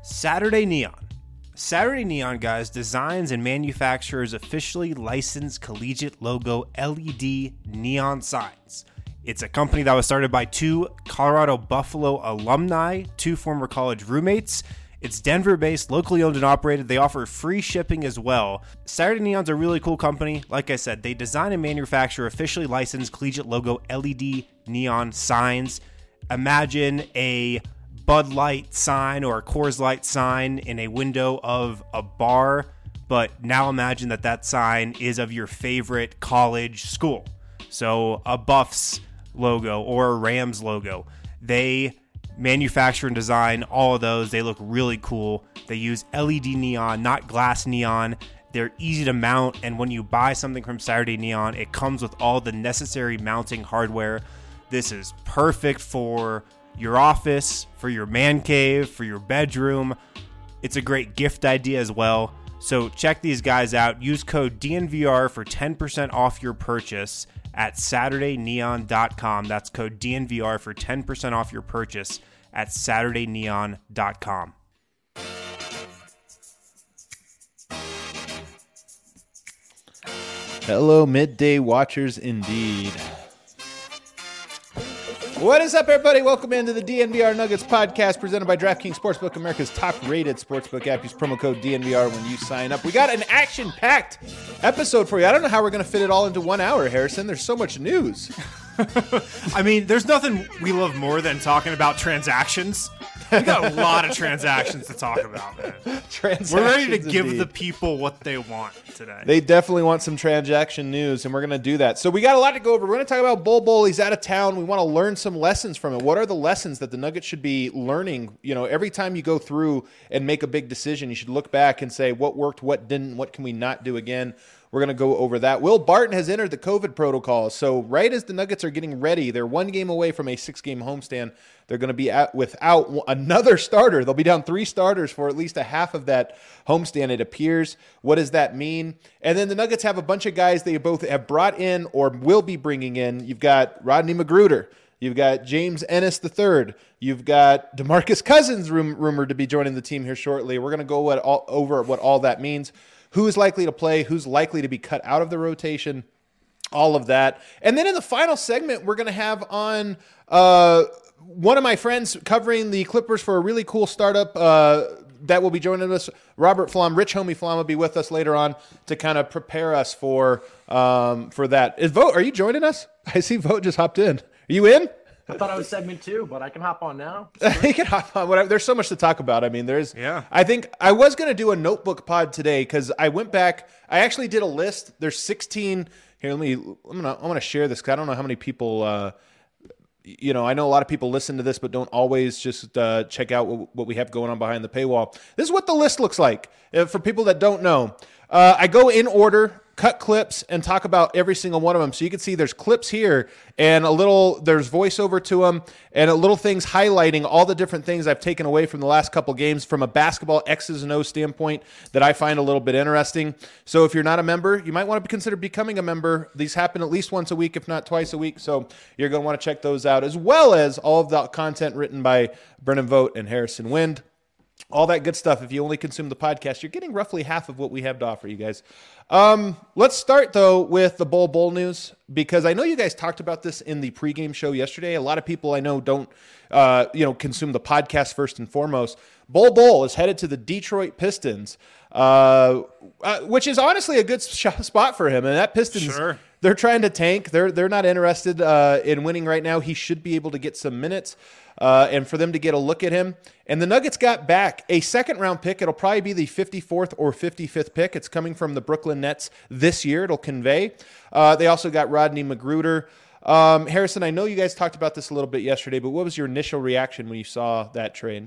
Saturday Neon. Saturday Neon, guys, designs and manufactures officially licensed collegiate logo LED neon signs. It's a company that was started by two Colorado Buffalo alumni, two former college roommates. It's Denver-based, locally owned and operated. They offer free shipping as well. Saturday Neon's a really cool company. Like I said, they design and manufacture officially licensed collegiate logo LED neon signs. Imagine a Bud Light sign or a Coors Light sign in a window of a bar, but now imagine that sign is of your favorite college school. So a Buffs logo or a Rams logo. They manufacture and design all of those. They look really cool. They use LED neon, not glass neon. They're easy to mount, and when you buy something from Saturday Neon, it comes with all the necessary mounting hardware. This is perfect for your office, for your man cave, for your bedroom. It's a great gift idea as well. So check these guys out. Use code DNVR for 10% off your purchase at SaturdayNeon.com. That's code DNVR for 10% off your purchase at SaturdayNeon.com. Hello, midday watchers indeed. What is up, everybody? Welcome into the DNVR Nuggets podcast presented by DraftKings Sportsbook, America's top-rated sportsbook app. Use promo code DNVR when you sign up. We got an action-packed episode for you. I don't know how we're going to fit it all into 1 hour, Harrison. There's so much news. I mean, there's nothing we love more than talking about transactions. We got a lot of transactions to talk about, man. We're ready to give the people what they want today. They definitely want some transaction news, and we're going to do that. So we got a lot to go over. We're going to talk about Bol Bol. He's out of town. We want to learn some lessons from it. What are the lessons that the Nuggets should be learning? You know, every time you go through and make a big decision, you should look back and say, what worked, what didn't, what can we not do again? We're going to go over that. Will Barton has entered the COVID protocol. So right as the Nuggets are getting ready, they're 1 game away from a 6-game homestand. They're going to be without another starter. They'll be down 3 starters for at least a half of that homestand, it appears. What does that mean? And then the Nuggets have a bunch of guys they both have brought in or will be bringing in. You've got Rodney McGruder. You've got James Ennis III. You've got DeMarcus Cousins rumored to be joining the team here shortly. We're going to go over what all that means. Who is likely to play, who's likely to be cut out of the rotation, all of that. And then in the final segment, we're going to have on one of my friends covering the Clippers for a really cool startup that will be joining us. Robert Flom, Rich Homie Flom will be with us later on to kind of prepare us for that. Vogt, are you joining us? I see Vogt just hopped in. Are you in? I thought I was segment 2, but I can hop on now. You can hop on. Whatever. There's so much to talk about. I mean, Yeah. I think I was going to do a notebook pod today because I went back. I actually did a list. There's 16. Here, I'm going to share this because I don't know how many people. I know a lot of people listen to this, but don't always just check out what we have going on behind the paywall. This is what the list looks like for people that don't know. I go in order, cut clips, and talk about every single one of them. So you can see there's clips here and there's voiceover to them and little things highlighting all the different things I've taken away from the last couple games from a basketball X's and O's standpoint that I find a little bit interesting. So if you're not a member, you might want to consider becoming a member. These happen at least once a week, if not twice a week. So you're going to want to check those out, as well as all of the content written by Brennan Vogt and Harrison Wind. All that good stuff. If you only consume the podcast, you're getting roughly half of what we have to offer you guys. Let's start, though, with the Bol Bol news, because I know you guys talked about this in the pregame show yesterday. A lot of people I know don't, consume the podcast first and foremost. Bol Bol is headed to the Detroit Pistons, which is honestly a good spot for him. And that Pistons, Sure. They're trying to tank. They're not interested in winning right now. He should be able to get some minutes. And for them to get a look at him. And the Nuggets got back a second-round pick. It'll probably be the 54th or 55th pick. It's coming from the Brooklyn Nets this year. It'll convey. They also got Rodney McGruder. Harrison, I know you guys talked about this a little bit yesterday, but what was your initial reaction when you saw that trade?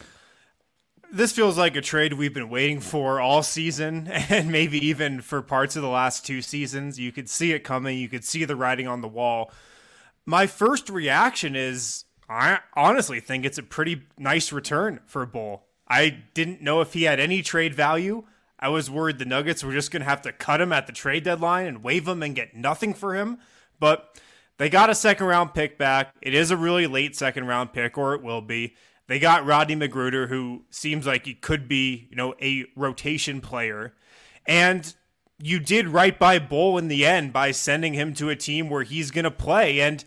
This feels like a trade we've been waiting for all season, and maybe even for parts of the last 2 seasons. You could see it coming. You could see the writing on the wall. My first reaction is, I honestly think it's a pretty nice return for Bol. I didn't know if he had any trade value. I was worried the Nuggets were just going to have to cut him at the trade deadline and waive him and get nothing for him. But they got a second-round pick back. It is a really late second-round pick, or it will be. They got Rodney McGruder, who seems like he could be, a rotation player. And you did right by Bull in the end by sending him to a team where he's going to play. And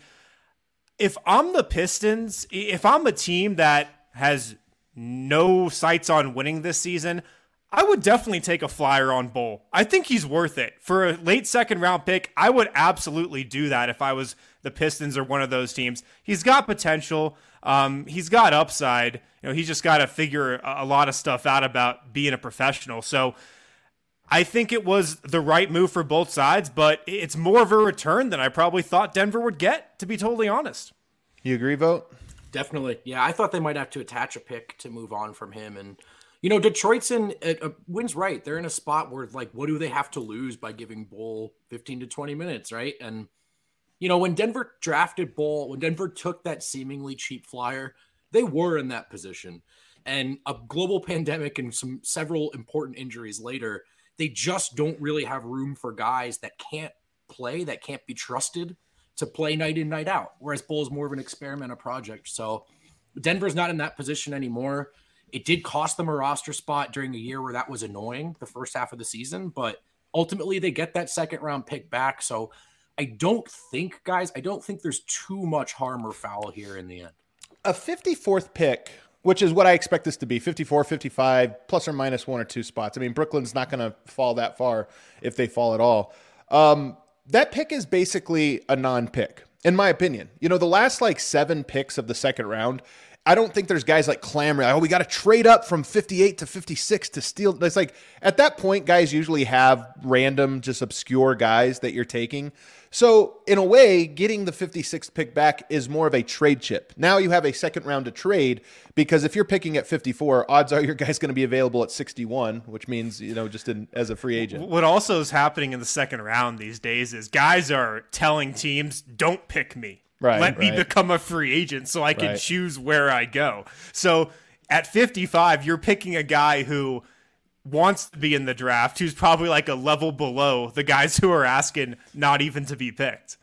if I'm the Pistons, if I'm a team that has no sights on winning this season, I would definitely take a flyer on Bull. I think he's worth it. For a late second round pick, I would absolutely do that if I was the Pistons or one of those teams. He's got potential. He's got upside. He's just got to figure a lot of stuff out about being a professional. So I think it was the right move for both sides, but it's more of a return than I probably thought Denver would get, to be totally honest. You agree, Vote? Definitely. Yeah, I thought they might have to attach a pick to move on from him. And, Detroit's Wynn's right. They're in a spot where, what do they have to lose by giving Bull 15 to 20 minutes, right? And, when Denver drafted Bull, when Denver took that seemingly cheap flyer, they were in that position. And a global pandemic and several important injuries later, they just don't really have room for guys that can't play, that can't be trusted to play night in, night out. Whereas Bull is more of an experiment, a project. So Denver's not in that position anymore. It did cost them a roster spot during a year where that was annoying the first half of the season, but ultimately they get that second round pick back. So I don't think there's too much harm or foul here in the end. A 54th pick, which is what I expect this to be, 54, 55, plus or minus one or two spots. I mean, Brooklyn's not going to fall that far if they fall at all. That pick is basically a non-pick, in my opinion. The last 7 picks of the second round, I don't think there's guys clamoring, we got to trade up from 58 to 56 to steal. It's at that point, guys usually have random, just obscure guys that you're taking. So in a way, getting the 56th pick back is more of a trade chip. Now you have a second round to trade, because if you're picking at 54, odds are your guy's going to be available at 61, which means, as a free agent. What also is happening in the second round these days is guys are telling teams, don't pick me. Let me become a free agent so I can choose where I go. So at 55, you're picking a guy who wants to be in the draft, who's probably a level below the guys who are asking not even to be picked.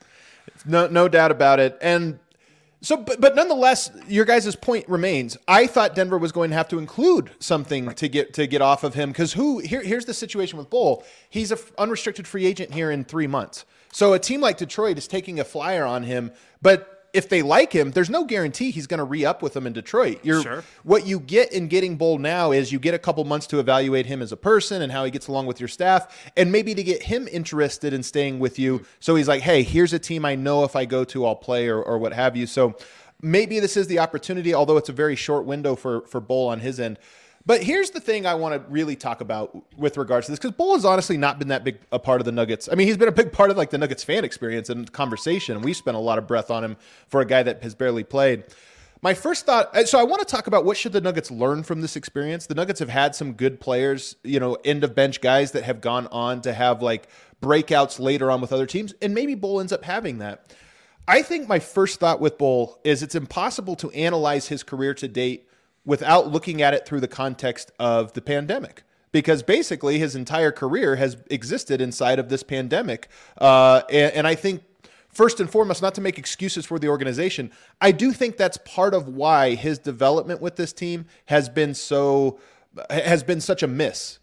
No doubt about it. And so, but nonetheless, your guys' point remains. I thought Denver was going to have to include something to get off of him, because here's the situation with Bull. He's an unrestricted free agent here in 3 months. So a team like Detroit is taking a flyer on him, but if they like him, there's no guarantee he's going to re-up with them in Detroit. Sure. What you get in getting Bull now is you get a couple months to evaluate him as a person and how he gets along with your staff, and maybe to get him interested in staying with you. So he's like, hey, here's a team I know if I go to, I'll play or what have you. So maybe this is the opportunity, although it's a very short window for Bull on his end. But here's the thing I want to really talk about with regards to this, because Bull has honestly not been that big a part of the Nuggets. I mean, he's been a big part of the Nuggets fan experience and conversation, and we spent a lot of breath on him for a guy that has barely played. My first thought, so I want to talk about what should the Nuggets learn from this experience. The Nuggets have had some good players, end of bench guys that have gone on to have breakouts later on with other teams, and maybe Bull ends up having that. I think my first thought with Bull is it's impossible to analyze his career to date without looking at it through the context of the pandemic, because basically his entire career has existed inside of this pandemic. And I think, first and foremost, not to make excuses for the organization, I do think that's part of why his development with this team has been such a miss.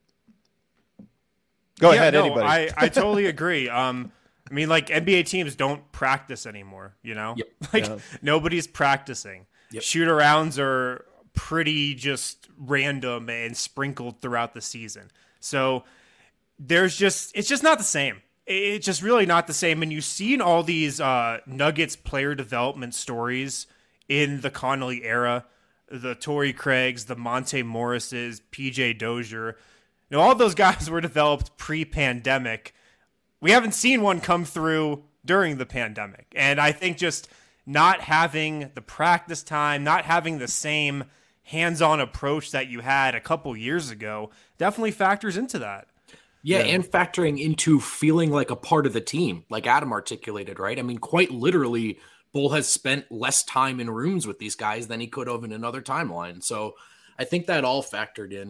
Go ahead, anybody. I totally agree. NBA teams don't practice anymore, Yep. Nobody's practicing. Yep. Shoot-arounds are pretty just random and sprinkled throughout the season. So it's just not the same. It's just really not the same. And you've seen all these Nuggets player development stories in the Connolly era, the Torrey Craigs, the Monte Morrises, PJ Dozier. All those guys were developed pre-pandemic. We haven't seen one come through during the pandemic. And I think just not having the practice time, not having the same hands-on approach that you had a couple years ago definitely factors into that. Yeah, and factoring into feeling like a part of the team, like Adam articulated, right? I mean, quite literally, Bull has spent less time in rooms with these guys than he could have in another timeline. So I think that all factored in.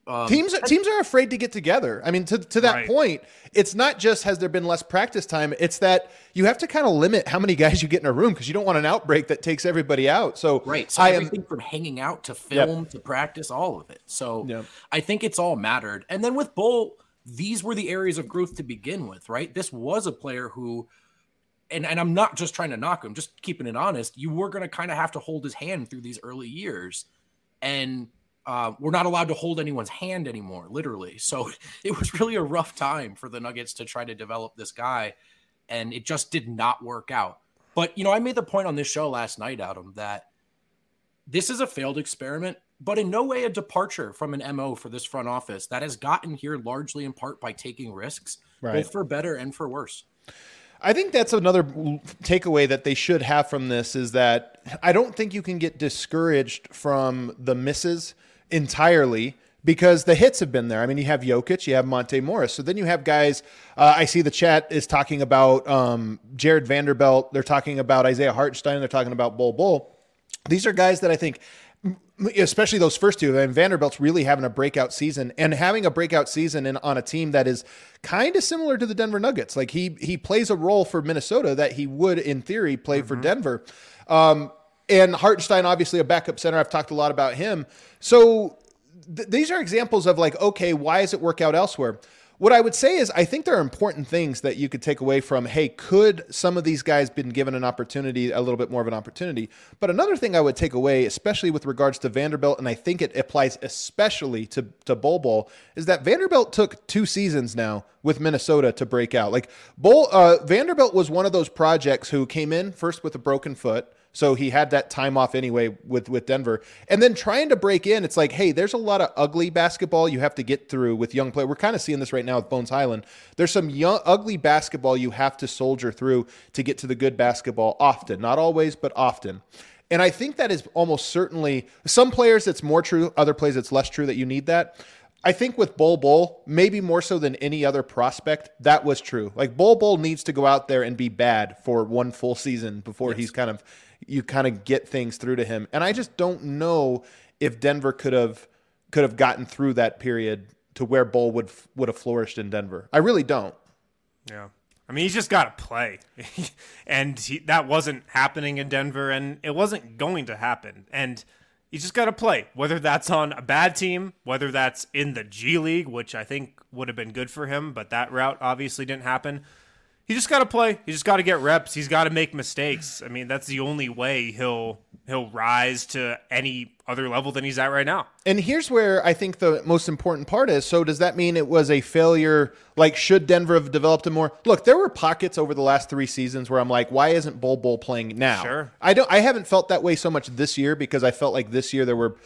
Teams are afraid to get together. I mean, to that point, it's not just has there been less practice time. It's that you have to kind of limit how many guys you get in a room because you don't want an outbreak that takes everybody out. So So everything from hanging out to film to practice, all of it. So I think it's all mattered. And then with Bol, these were the areas of growth to begin with, right? This was a player who, and I'm not just trying to knock him, just keeping it honest, you were going to kind of have to hold his hand through these early years. And we're not allowed to hold anyone's hand anymore, literally. So it was really a rough time for the Nuggets to try to develop this guy, and it just did not work out. But, I made the point on this show last night, Adam, that this is a failed experiment, but in no way a departure from an MO for this front office that has gotten here largely in part by taking risks, both for better and for worse. I think that's another takeaway that they should have from this is that I don't think you can get discouraged from the misses entirely because the hits have been there. I mean, you have Jokic, you have Monte Morris. So then you have guys, I see the chat is talking about Jared Vanderbilt. They're talking about Isaiah Hartenstein. They're talking about Bol. These are guys that I think, especially those first two, and Vanderbilt's really having a breakout season and having a breakout season on a team that is kind of similar to the Denver Nuggets. Like he plays a role for Minnesota that he would, in theory, play for Denver. And Hartenstein, obviously a backup center. I've talked a lot about him. So these are examples of like, okay, why does it work out elsewhere? What I would say is I think there are important things that you could take away from, hey, could some of these guys been given an opportunity, a little bit more of an opportunity? But another thing I would take away, especially with regards to Vanderbilt, and I think it applies especially to Bol, is that Vanderbilt took 2 seasons now with Minnesota to break out. Like Vanderbilt was one of those projects who came in first with a broken foot. So he had that time off anyway with Denver. And then trying to break in, it's like, hey, there's a lot of ugly basketball you have to get through with young players. We're kind of seeing this right now with Bones Highland. There's some ugly basketball you have to soldier through to get to the good basketball often. Not always, but often. And I think that is almost certainly, some players it's more true, other players it's less true that you need that. I think with Bol, maybe more so than any other prospect, that was true. Like Bol needs to go out there and be bad for one full season before he's you kind of get things through to him. And I just don't know if Denver could have gotten through that period to where Bol would have flourished in Denver. I really don't. Yeah. I mean, he's just got to play. And that wasn't happening in Denver, and it wasn't going to happen. And you just got to play, whether that's on a bad team, whether that's in the G League, which I think would have been good for him, but that route obviously didn't happen. He just got to play. He just got to get reps. He's got to make mistakes. I mean, that's the only way he'll rise to any other level than he's at right now. And here's where I think the most important part is, so does that mean it was a failure? Like, should Denver have developed him more? Look, there were pockets over the last 3 seasons where I'm like, why isn't Bol playing now? Sure. I haven't felt that way so much this year because I felt like this year there were,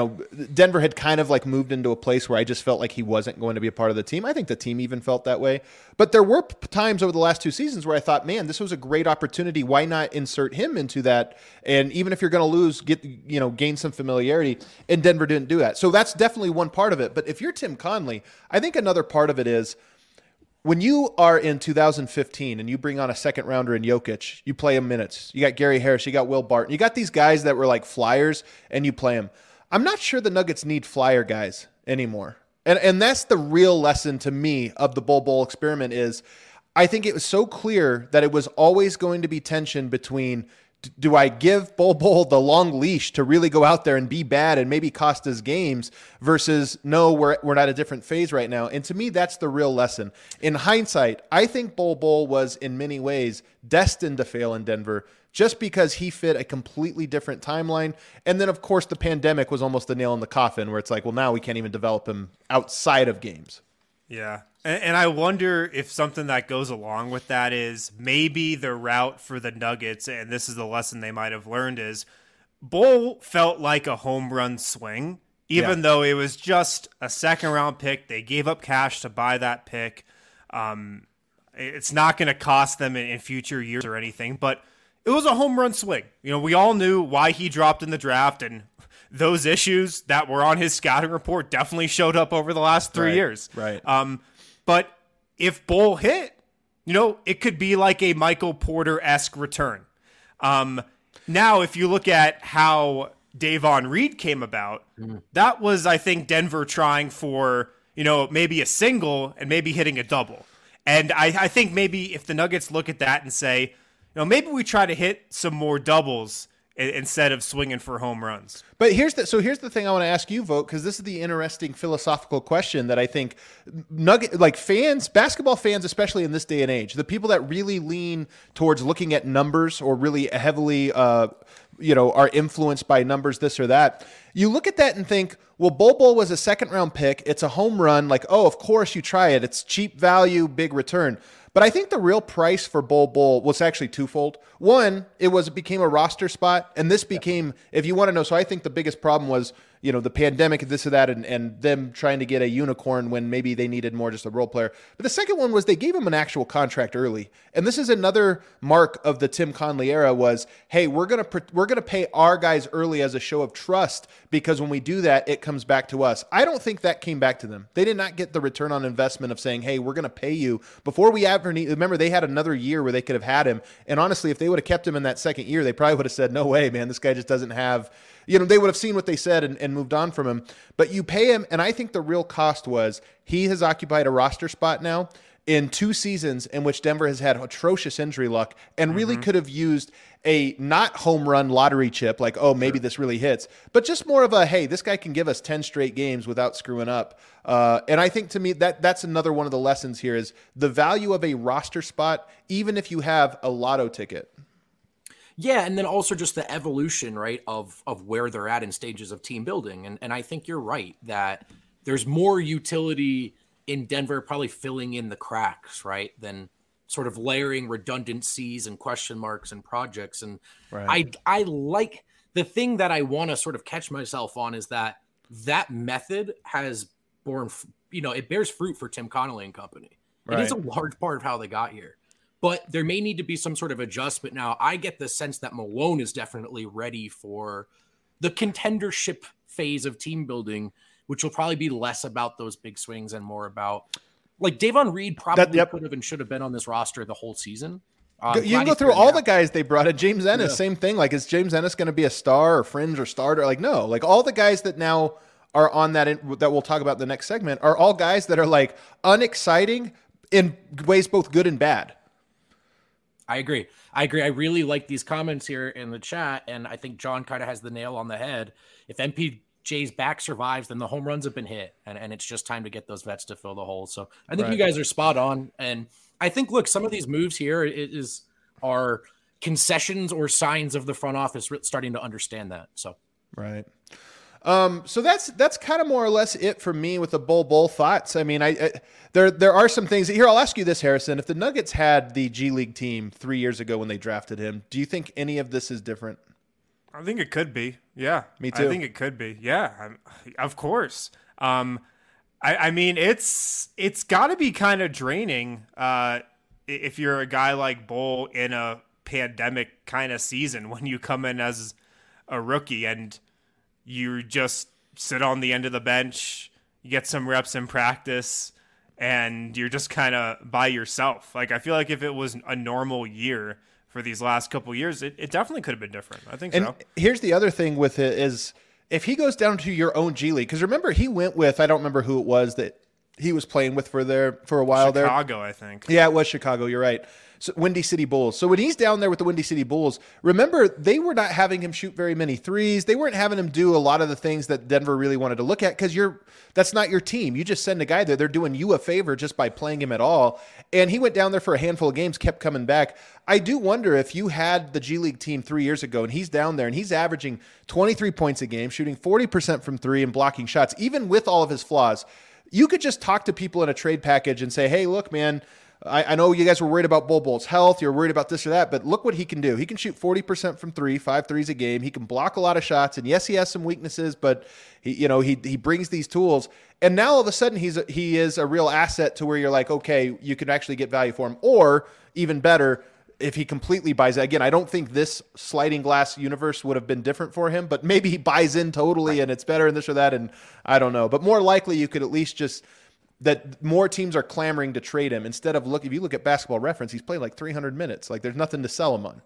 Denver had kind of like moved into a place where I just felt like he wasn't going to be a part of the team. I think the team even felt that way. But there were times over the last 2 seasons where I thought, man, this was a great opportunity. Why not insert him into that? And even if you're going to lose, gain some familiarity. And Denver didn't do that. So that's definitely one part of it. But if you're Tim Conley, I think another part of it is when you are in 2015 and you bring on a second rounder in Jokic, you play him minutes. You got Gary Harris, you got Will Barton, you got these guys that were like flyers and you play them. I'm not sure the Nuggets need flyer guys anymore. And that's the real lesson to me of the Bol experiment is I think it was so clear that it was always going to be tension between do I give Bol the long leash to really go out there and be bad and maybe cost us games versus no, we're at a different phase right now. And to me, that's the real lesson. In hindsight, I think Bol was in many ways destined to fail in Denver just because he fit a completely different timeline. And then, of course, the pandemic was almost the nail in the coffin where it's like, well, now we can't even develop him outside of games. Yeah. And I wonder if something that goes along with that is maybe the route for the Nuggets, and this is the lesson they might have learned, is Bol felt like a home run swing, even though it was just a second-round pick. They gave up cash to buy that pick. It's not going to cost them in future years or anything, but it was a home run swing. We all knew why he dropped in the draft, and those issues that were on his scouting report definitely showed up over the last 3 years. Right. But if Bol hit, it could be like a Michael Porter-esque return. Now, if you look at how Davon Reed came about, that was, I think, Denver trying for, maybe a single and maybe hitting a double. And I think maybe if the Nuggets look at that and say, maybe we try to hit some more doubles instead of swinging for home runs. But here's the thing I want to ask you, Vogt, because this is the interesting philosophical question that I think basketball fans, especially in this day and age, the people that really lean towards looking at numbers or really heavily, are influenced by numbers, this or that. You look at that and think, well, Bol was a 2nd-round pick. It's a home run. Like, oh, of course you try it. It's cheap value, big return. But I think the real price for Bol was actually twofold. One, it became a roster spot, and this became, if you want to know, so I think the biggest problem was, the pandemic, this or that, and them trying to get a unicorn when maybe they needed more just a role player. But the second one was they gave him an actual contract early. And this is another mark of the Tim Connelly era was, hey, we're going to pay our guys early as a show of trust, because when we do that, it comes back to us. I don't think that came back to them. They did not get the return on investment of saying, hey, we're going to pay you before we ever need. Remember, they had another year where they could have had him. And honestly, if they would have kept him in that second year, they probably would have said, no way, man, this guy just doesn't have, they would have seen what they said and moved on from him. But you pay him, and I think the real cost was he has occupied a roster spot now in 2 seasons in which Denver has had atrocious injury luck and really could have used a not home run lottery chip, like, oh, maybe this really hits, but just more of a, hey, this guy can give us 10 straight games without screwing up. And I think to me that's another one of the lessons here is the value of a roster spot, even if you have a lotto ticket. Yeah, and then also just the evolution, right, of where they're at in stages of team building. And I think you're right that there's more utility in Denver probably filling in the cracks, right, than sort of layering redundancies and question marks and projects. And right. I like the thing that I want to sort of catch myself on is that method has borne, it bears fruit for Tim Connelly and company. Right. It is a large part of how they got here. But there may need to be some sort of adjustment. Now, I get the sense that Malone is definitely ready for the contendership phase of team building, which will probably be less about those big swings and more about, like, Davon Reed probably could have and should have been on this roster the whole season. You can go through all the guys they brought in. James Ennis, same thing. Like, is James Ennis going to be a star or fringe or starter? Like, no. Like, all the guys that now are on that we'll talk about in the next segment are all guys that are, like, unexciting in ways both good and bad. I agree. I really like these comments here in the chat, and I think John kind of has the nail on the head. If MPJ's back survives, then the home runs have been hit, and it's just time to get those vets to fill the hole. So I think you guys are spot on, and I think, look, some of these moves here are concessions or signs of the front office starting to understand that. So right. So that's kind of more or less it for me with the Bol thoughts. I mean, there are some things here. I'll ask you this, Harrison. If the Nuggets had the G League team 3 years ago when they drafted him, do you think any of this is different? I think it could be. Yeah, me too. I think it could be. Yeah, of course. I mean, it's got to be kind of draining if you're a guy like Bol in a pandemic kind of season when you come in as a rookie and you just sit on the end of the bench, you get some reps in practice, and you're just kind of by yourself. Like, I feel like if it was a normal year for these last couple of years, it definitely could have been different. I think so. And here's the other thing with it is if he goes down to your own G League, because remember he went with, I don't remember who it was that he was playing with for a while there. Chicago, I think. Yeah, it was Chicago. You're right. So, Windy City Bulls. So when he's down there with the Windy City Bulls, remember they were not having him shoot very many threes. They weren't having him do a lot of the things that Denver really wanted to look at because that's not your team. You just send a guy there. They're doing you a favor just by playing him at all. And he went down there for a handful of games, kept coming back. I do wonder if you had the G League team 3 years ago and he's down there and he's averaging 23 points a game, shooting 40% from three and blocking shots, even with all of his flaws. You could just talk to people in a trade package and say, hey, look, man, I know you guys were worried about Bol's health. You're worried about this or that, but look what he can do. He can shoot 40% from three, 5 threes a game. He can block a lot of shots. And yes, he has some weaknesses, but he brings these tools. And now all of a sudden he is a real asset to where you're like, okay, you can actually get value for him. Or even better, if he completely buys it. Again, I don't think this sliding glass universe would have been different for him, but maybe he buys in totally and it's better and this or that. And I don't know, but more likely you could at least just that more teams are clamoring to trade him instead of if you look at Basketball Reference, he's played like 300 minutes. Like there's nothing to sell him on.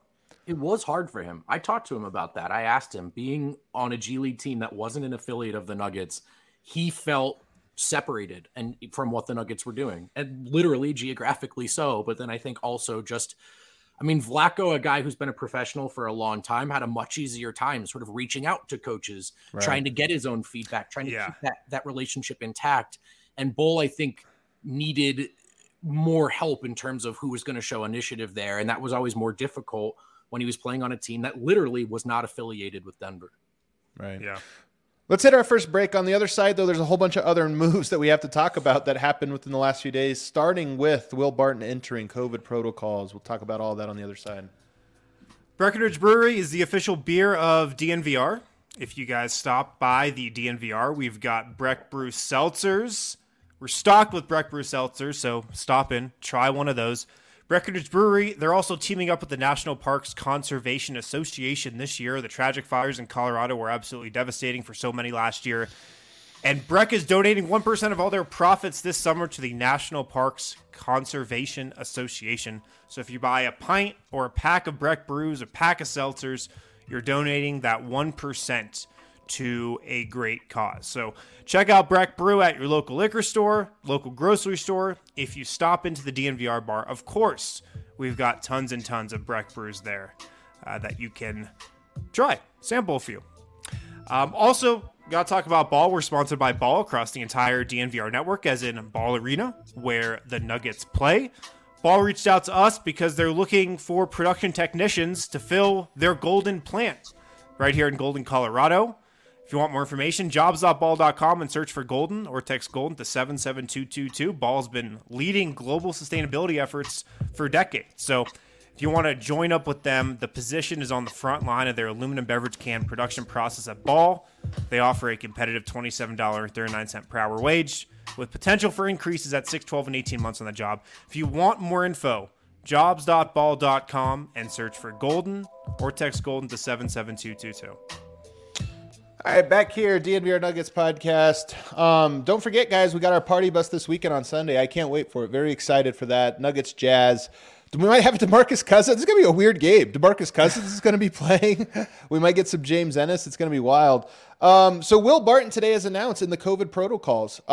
It was hard for him. I talked to him about that. I asked him, being on a G League team that wasn't an affiliate of the Nuggets, he felt separated and from what the Nuggets were doing, and literally geographically so. But then I think also just, I mean, Vlatko, a guy who's been a professional for a long time, had a much easier time sort of reaching out to coaches, trying to get his own feedback, trying to keep that relationship intact. And Bol, I think, needed more help in terms of who was going to show initiative there. And that was always more difficult when he was playing on a team that literally was not affiliated with Denver. Right. Yeah. Let's hit our first break. On the other side, though, there's a whole bunch of other moves that we have to talk about that happened within the last few days, starting with Will Barton entering COVID protocols. We'll talk about all that on the other side. Breckenridge Brewery is the official beer of DNVR. If you guys stop by the DNVR, we've got Breck Brew Seltzers. We're stocked with Breck Brew Seltzers, so stop in, try one of those. Breckenridge Brewery, they're also teaming up with the National Parks Conservation Association this year. The tragic fires in Colorado were absolutely devastating for so many last year. And Breck is donating 1% of all their profits this summer to the National Parks Conservation Association. So if you buy a pint or a pack of Breck Brews, a pack of seltzers, you're donating that 1% to a great cause. So check out Breck Brew at your local liquor store, local grocery store. If you stop into the DNVR bar, of course, we've got tons and tons of Breck Brews there that you can try, sample a few. Also, got to talk about Ball. We're sponsored by Ball across the entire DNVR network, as in Ball Arena, where the Nuggets play. Ball reached out to us because they're looking for production technicians to fill their Golden plant right here in Golden, Colorado. If you want more information, jobs.ball.com and search for Golden or text Golden to 77222. Ball's been leading global sustainability efforts for decades. So if you want to join up with them, the position is on the front line of their aluminum beverage can production process at Ball. They offer a competitive $27.39 per hour wage with potential for increases at 6, 12, and 18 months on the job. If you want more info, jobs.ball.com and search for Golden or text Golden to 77222. All right, back here, DNVR Nuggets podcast. Don't forget, guys, we got our party bus this weekend on Sunday. I can't wait for it. Very excited for that. Nuggets Jazz. We might have DeMarcus Cousins. It's going to be a weird game. DeMarcus Cousins is going to be playing. We might get some James Ennis. It's going to be wild. So Will Barton today has announced in the COVID protocols.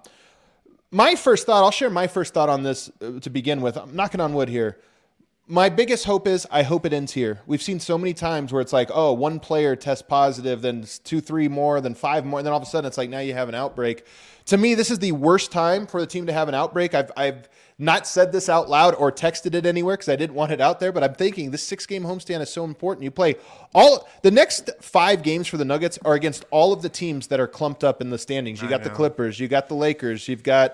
My first thought, I'll share my first thought on this to begin with. I'm knocking on wood here. My biggest hope is I hope it ends here. We've seen so many times where it's like, oh, one player tests positive, then 2, 3 more, then 5 more, and then all of a sudden it's like now you have an outbreak. To me, this is the worst time for the team to have an outbreak. I've not said this out loud or texted it anywhere because I didn't want it out there, but I'm thinking this 6-game homestand is so important. You play the next 5 games for the Nuggets are against all of the teams that are clumped up in the standings. You got the Clippers, you got the Lakers, you've got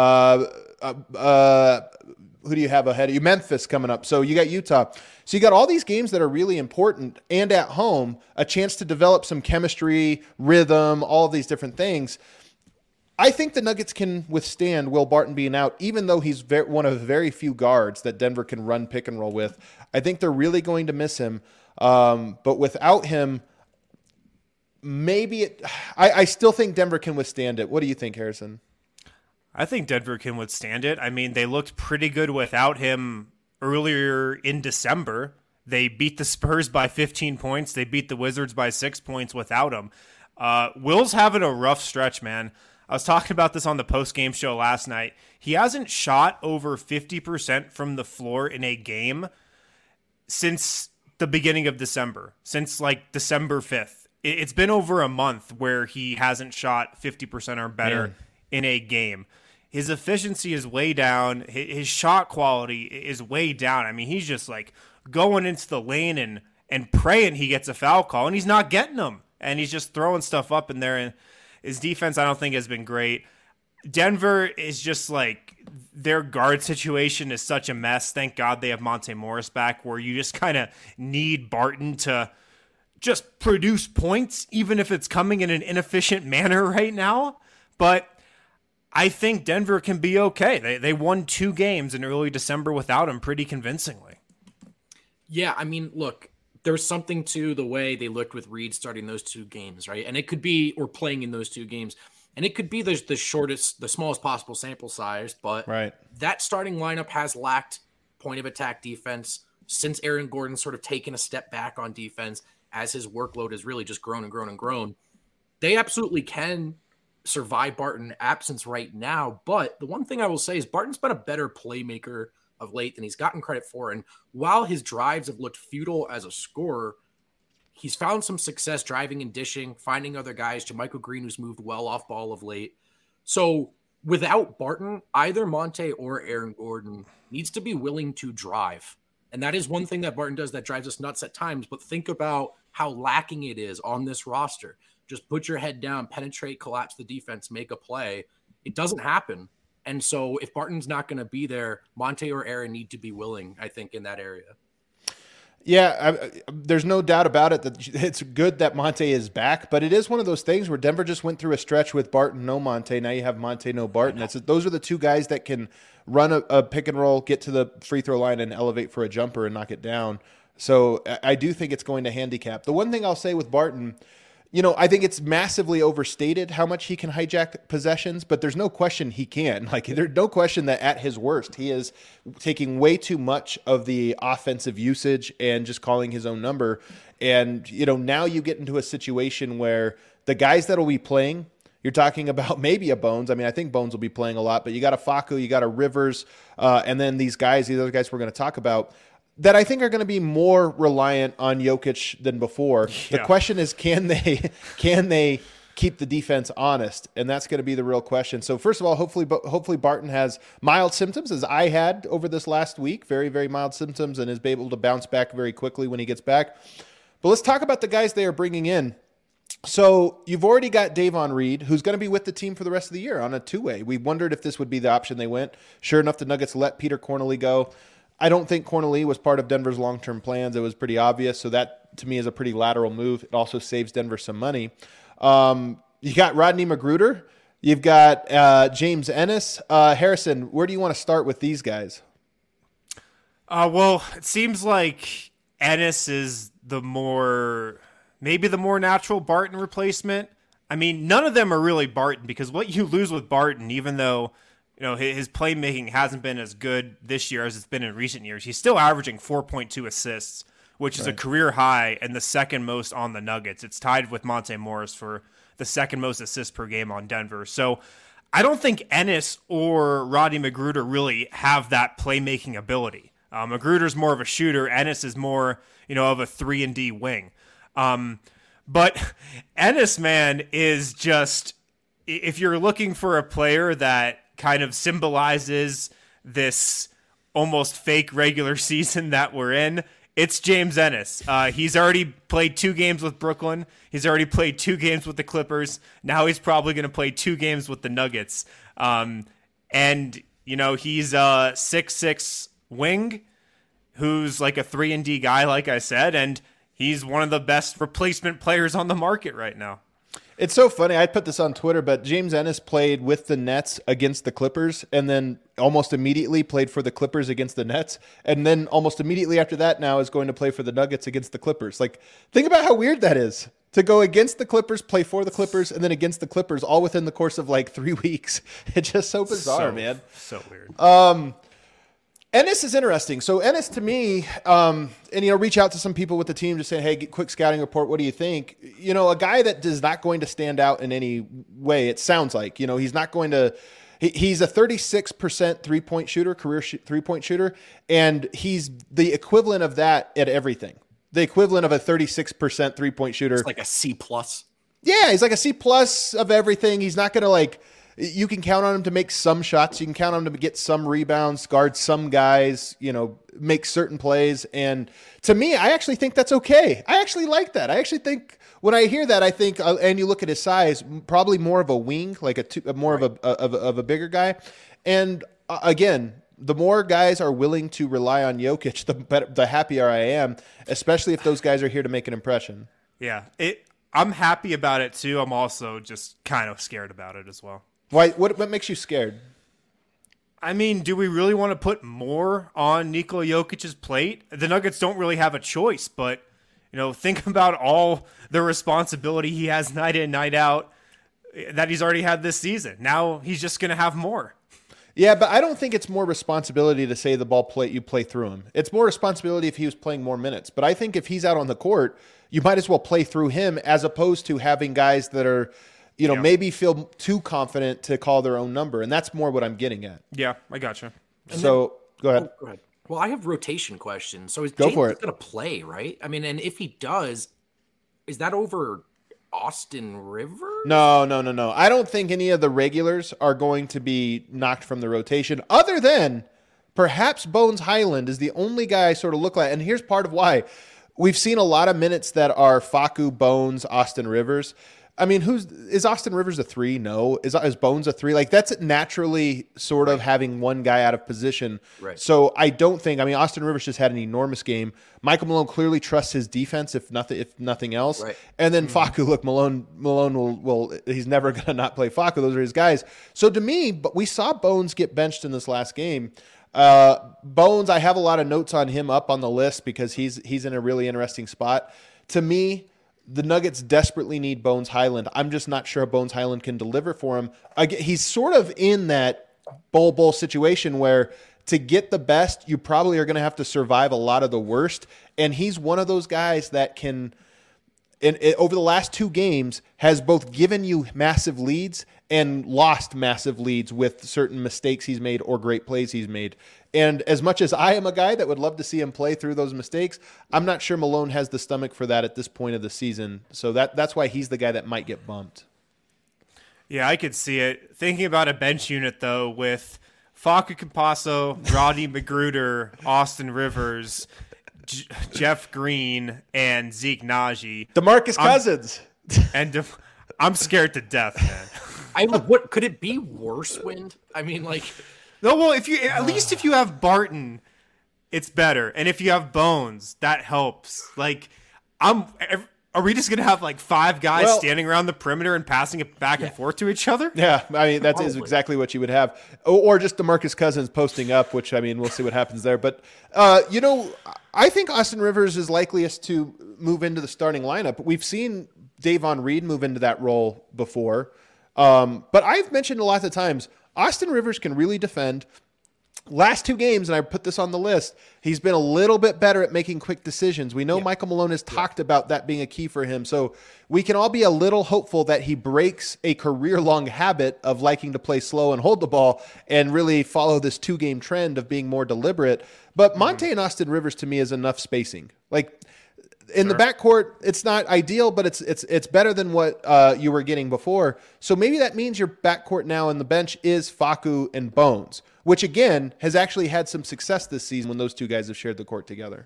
who do you have ahead of you? Memphis coming up. So you got Utah. So you got all these games that are really important and at home, a chance to develop some chemistry, rhythm, all of these different things. I think the Nuggets can withstand Will Barton being out, even though he's one of the very few guards that Denver can run pick and roll with. I think they're really going to miss him. But without him, maybe I still think Denver can withstand it. What do you think, Harrison? I think Denver can withstand it. I mean, they looked pretty good without him earlier in December. They beat the Spurs by 15 points. They beat the Wizards by 6 points without him. Will's having a rough stretch, man. I was talking about this on the post-game show last night. He hasn't shot over 50% from the floor in a game since the beginning of December, since like December 5th. It's been over a month where he hasn't shot 50% or better in a game. His efficiency is way down. His shot quality is way down. I mean, he's just like going into the lane and praying he gets a foul call, and he's not getting them. And he's just throwing stuff up in there. And his defense, I don't think, has been great. Denver is just like, their guard situation is such a mess. Thank God they have Monte Morris back, where you just kind of need Barton to just produce points, even if it's coming in an inefficient manner right now. But I think Denver can be okay. They won 2 games in early December without him pretty convincingly. Yeah, I mean, look, there's something to the way they looked with Reed starting those 2 games, right? And it could be, or playing in those 2 games, and it could be the smallest possible sample size, but that starting lineup has lacked point of attack defense, since Aaron Gordon's sort of taken a step back on defense as his workload has really just grown and grown and grown. They absolutely can survive Barton's absence right now. But the one thing I will say is Barton's been a better playmaker of late than he's gotten credit for. And while his drives have looked futile as a scorer, he's found some success driving and dishing, finding other guys. JaMychal Green, who's moved well off ball of late. So without Barton, either Monte or Aaron Gordon needs to be willing to drive. And that is one thing that Barton does that drives us nuts at times. But think about how lacking it is on this roster. Just put your head down, penetrate, collapse the defense, make a play. It doesn't happen. And so if Barton's not going to be there, Monte or Aaron need to be willing, I think, in that area. Yeah, there's no doubt about it that it's good that Monte is back, but it is one of those things where Denver just went through a stretch with Barton, no Monte. Now you have Monte, no Barton. Those are the two guys that can run a pick and roll, get to the free throw line and elevate for a jumper and knock it down. So I do think it's going to handicap. The one thing I'll say with Barton, I think it's massively overstated how much he can hijack possessions, but there's no question he can. There's no question that at his worst, he is taking way too much of the offensive usage and just calling his own number. And, now you get into a situation where the guys that will be playing, you're talking about maybe a Bones. I mean, I think Bones will be playing a lot, but you got a Facu, you got a Rivers, and then these other guys we're going to talk about, that I think are going to be more reliant on Jokic than before. Yeah. The question is, can they keep the defense honest? And that's going to be the real question. So first of all, hopefully Barton has mild symptoms, as I had over this last week, very, very mild symptoms, and is able to bounce back very quickly when he gets back. But let's talk about the guys they are bringing in. So you've already got Davon Reed, who's going to be with the team for the rest of the year on a two-way. We wondered if this would be the option they went. Sure enough, the Nuggets let Peter Cornely go. I don't think Cornely was part of Denver's long-term plans. It was pretty obvious. So that, to me, is a pretty lateral move. It also saves Denver some money. You got Rodney Magruder. You've got James Ennis. Harrison, where do you want to start with these guys? Well, it seems like Ennis is maybe the more natural Barton replacement. I mean, none of them are really Barton, because what you lose with Barton, even though his playmaking hasn't been as good this year as it's been in recent years, he's still averaging 4.2 assists, which is a career high and the second most on the Nuggets. It's tied with Monte Morris for the second most assists per game on Denver. So I don't think Ennis or Rodney Magruder really have that playmaking ability. Magruder's more of a shooter. Ennis is more, of a 3-and-D wing. But Ennis, man, is just, if you're looking for a player that kind of symbolizes this almost fake regular season that we're in, it's James Ennis. He's already played 2 games with Brooklyn. He's already played 2 games with the Clippers. Now he's probably going to play 2 games with the Nuggets. And he's a 6'6" wing who's like a 3-and-D guy, like I said, and he's one of the best replacement players on the market right now. It's so funny. I put this on Twitter, but James Ennis played with the Nets against the Clippers, and then almost immediately played for the Clippers against the Nets, and then almost immediately after that now is going to play for the Nuggets against the Clippers. Think about how weird that is, to go against the Clippers, play for the Clippers, and then against the Clippers all within the course of 3 weeks. It's just so bizarre, man. So weird. Ennis is interesting. So Ennis, to me, reach out to some people with the team, just say, hey, quick scouting report. What do you think? A guy that is not going to stand out in any way. It sounds like, he's not going to. He's a 36% three-point shooter, career three-point shooter, and he's the equivalent of that at everything. The equivalent of a 36% three-point shooter. It's like a C+. Yeah, he's like a C+ of everything. He's not going to you can count on him to make some shots. You can count on him to get some rebounds, guard some guys, make certain plays. And to me, I actually think that's okay. I actually like that. I actually think when I hear that, I think, and you look at his size, probably more of a wing, more of a bigger guy. And again, the more guys are willing to rely on Jokic, the happier I am, especially if those guys are here to make an impression. Yeah, I'm happy about it too. I'm also just kind of scared about it as well. Why? What makes you scared? I mean, do we really want to put more on Nikola Jokic's plate? The Nuggets don't really have a choice, but think about all the responsibility he has night in, night out that he's already had this season. Now he's just going to have more. Yeah, but I don't think it's more responsibility to say you play through him. It's more responsibility if he was playing more minutes. But I think if he's out on the court, you might as well play through him as opposed to having guys that are, maybe feel too confident to call their own number. And that's more what I'm getting at. Yeah, I gotcha. So go ahead. Go ahead. Well, I have rotation questions. So is Go James for it. going to play, right? I mean, and if he does, is that over Austin Rivers? No. I don't think any of the regulars are going to be knocked from the rotation other than perhaps Bones Highland is the only guy I sort of look like. And here's part of why. We've seen a lot of minutes that are Facu, Bones, Austin Rivers. I mean, is Austin Rivers a 3? No. Is Bones a 3? Like, that's naturally sort of having one guy out of position. Right. So I don't think. I mean, Austin Rivers just had an enormous game. Michael Malone clearly trusts his defense, if nothing else. Right. And then Facu, look, Malone will he's never going to not play Facu. Those are his guys. So to me, but we saw Bones get benched in this last game. Bones, I have a lot of notes on him up on the list because he's in a really interesting spot. To me, the Nuggets desperately need Bones Highland. I'm just not sure Bones Highland can deliver for him. He's sort of in that bowl situation where to get the best, you probably are going to have to survive a lot of the worst. And he's one of those guys that can, over the last 2 games, has both given you massive leads and lost massive leads with certain mistakes he's made or great plays he's made. And as much as I am a guy that would love to see him play through those mistakes, I'm not sure Malone has the stomach for that at this point of the season. So that's why he's the guy that might get bumped. Yeah, I could see it. Thinking about a bench unit, though, with Facu Campazzo, Rodney Magruder, Austin Rivers, Jeff Green, and Zeke Naji. DeMarcus Cousins. And I'm scared to death, man. What could it be worse, Wind? I mean, like... No, well, if you have Barton, it's better, and if you have Bones, that helps. Like, are we just gonna have like 5 guys standing around the perimeter and passing it back and forth to each other? Yeah, I mean that is exactly what you would have, or just DeMarcus Cousins posting up, which I mean we'll see what happens there. But I think Austin Rivers is likeliest to move into the starting lineup. We've seen Davon Reed move into that role before, but I've mentioned a lot of times. Austin Rivers can really defend. Last 2 games, and I put this on the list, he's been a little bit better at making quick decisions. We know Michael Malone has talked about that being a key for him. So we can all be a little hopeful that he breaks a career-long habit of liking to play slow and hold the ball and really follow this 2-game trend of being more deliberate. But Monte and Austin Rivers, to me, is enough spacing. Like, in the backcourt, it's not ideal, but it's better than what you were getting before. So maybe that means your backcourt now on the bench is Facu and Bones, which again has actually had some success this season when those 2 guys have shared the court together.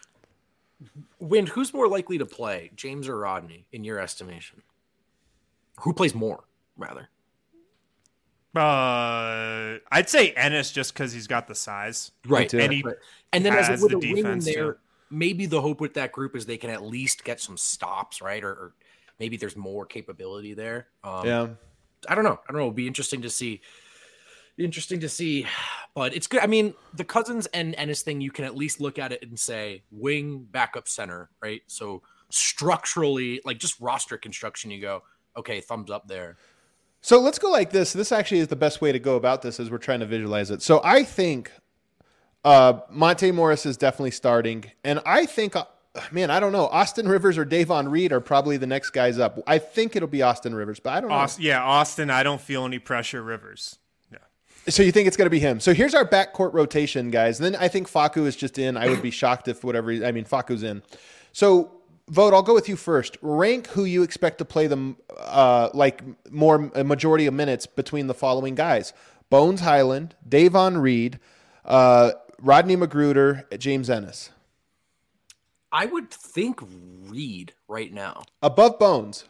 Wind, who's more likely to play, James or Rodney, in your estimation? Who plays more, rather? I'd say Ennis just because he's got the size, right? And then as with a wing in there. Too. Maybe the hope with that group is they can at least get some stops, right? Or maybe there's more capability there. I don't know. It'll be interesting to see. But it's good. I mean, the Cousins and Ennis thing, you can at least look at it and say wing, backup, center, right? So structurally, like just roster construction, you go, okay, thumbs up there. So let's go like this. This actually is the best way to go about this as we're trying to visualize it. So I think Monte Morris is definitely starting. And I think, I don't know. Austin Rivers or Davon Reed are probably the next guys up. I think it'll be Austin Rivers, but I don't know. Austin, I don't feel any pressure. Rivers. Yeah. So you think it's going to be him. So here's our backcourt rotation, guys. And then I think Facu is just in. I would be shocked if Facu's in. So, Vote, I'll go with you first. Rank who you expect to play them a majority of minutes between the following guys. Bones Highland, Davon Reed, Rodney Magruder, James Ennis. I would think Reed right now. Above Bones.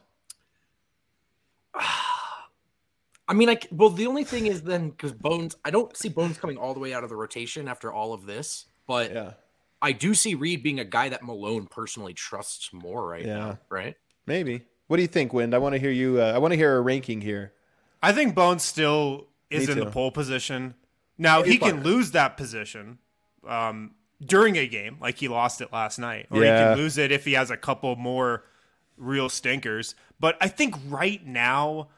I mean, the only thing is then because Bones, I don't see Bones coming all the way out of the rotation after all of this, but yeah. I do see Reed being a guy that Malone personally trusts more right now, right? Maybe. What do you think, Wind? I want to hear you. I want to hear a ranking here. I think Bones still is in the pole position. Now, he can lose that position during a game, like he lost it last night. Or he can lose it if he has a couple more real stinkers. But I think right now,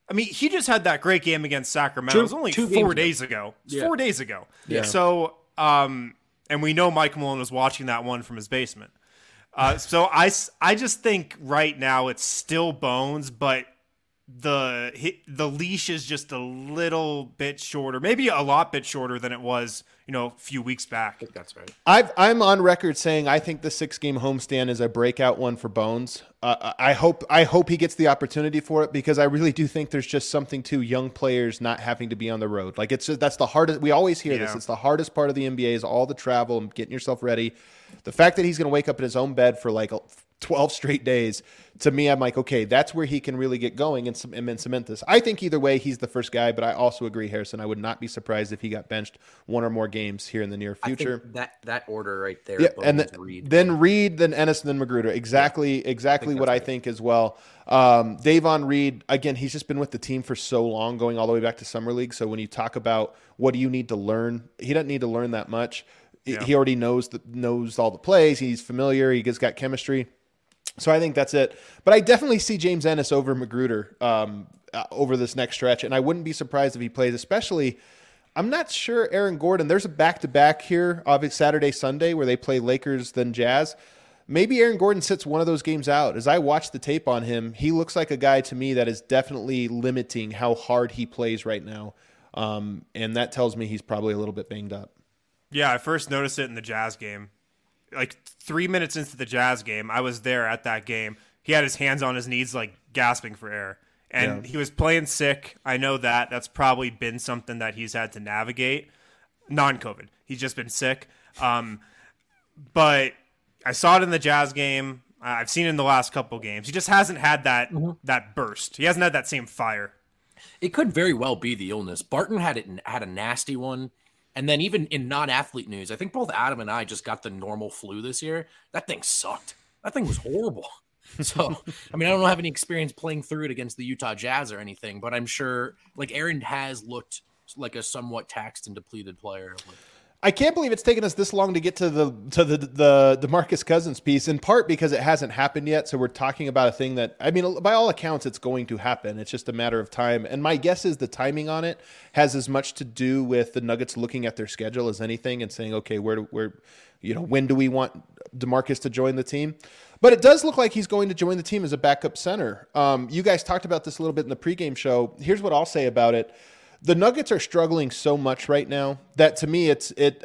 I mean, he just had that great game against Sacramento. It was only 4 days ago. It was 4 days ago. Yeah. So, and we know Mike Malone was watching that one from his basement. So I just think right now it's still Bones, but the leash is just a little bit shorter, maybe a lot bit shorter than it was, a few weeks back. I think that's right. I'm on record saying I think the 6-game homestand is a breakout one for Bones. I hope he gets the opportunity for it, because I really do think there's just something to young players not having to be on the road. Like, that's the hardest. We always hear this. It's the hardest part of the NBA is all the travel and getting yourself ready. The fact that he's going to wake up in his own bed for like 12 straight days, to me, I'm like, okay, that's where he can really get going and cement this. I think either way, he's the first guy, but I also agree, Harrison. I would not be surprised if he got benched one or more games here in the near future. I think that order right there. Yeah, and then Reed, then Ennis, then Magruder. Exactly what I think as well. Davon Reed, again, he's just been with the team for so long, going all the way back to Summer League. So when you talk about what do you need to learn, he doesn't need to learn that much. Yeah. He already knows all the plays. He's familiar. He just got chemistry. So I think that's it. But I definitely see James Ennis over Magruder over this next stretch, and I wouldn't be surprised if he plays, especially I'm not sure Aaron Gordon. There's a back-to-back here, obviously Saturday, Sunday, where they play Lakers then Jazz. Maybe Aaron Gordon sits one of those games out. As I watch the tape on him, he looks like a guy to me that is definitely limiting how hard he plays right now. And that tells me he's probably a little bit banged up. Yeah, I first noticed it in the Jazz game. Like 3 minutes into the Jazz game, I was there at that game. He had his hands on his knees, like gasping for air. And he was playing sick. I know that. That's probably been something that he's had to navigate. Non-COVID. He's just been sick. But I saw it in the Jazz game. I've seen it in the last couple games. He just hasn't had that burst. He hasn't had that same fire. It could very well be the illness. Barton had a nasty one. And then even in non-athlete news, I think both Adam and I just got the normal flu this year. That thing sucked. That thing was horrible. So, I mean, I don't have any experience playing through it against the Utah Jazz or anything, but I'm sure like Aaron has looked like a somewhat taxed and depleted player. I can't believe it's taken us this long to get to the DeMarcus Cousins piece, in part because it hasn't happened yet. So we're talking about a thing that, I mean, by all accounts, it's going to happen. It's just a matter of time. And my guess is the timing on it has as much to do with the Nuggets looking at their schedule as anything and saying, okay, when do we want DeMarcus to join the team? But it does look like he's going to join the team as a backup center. You guys talked about this a little bit in the pregame show. Here's what I'll say about it. The Nuggets are struggling so much right now that to me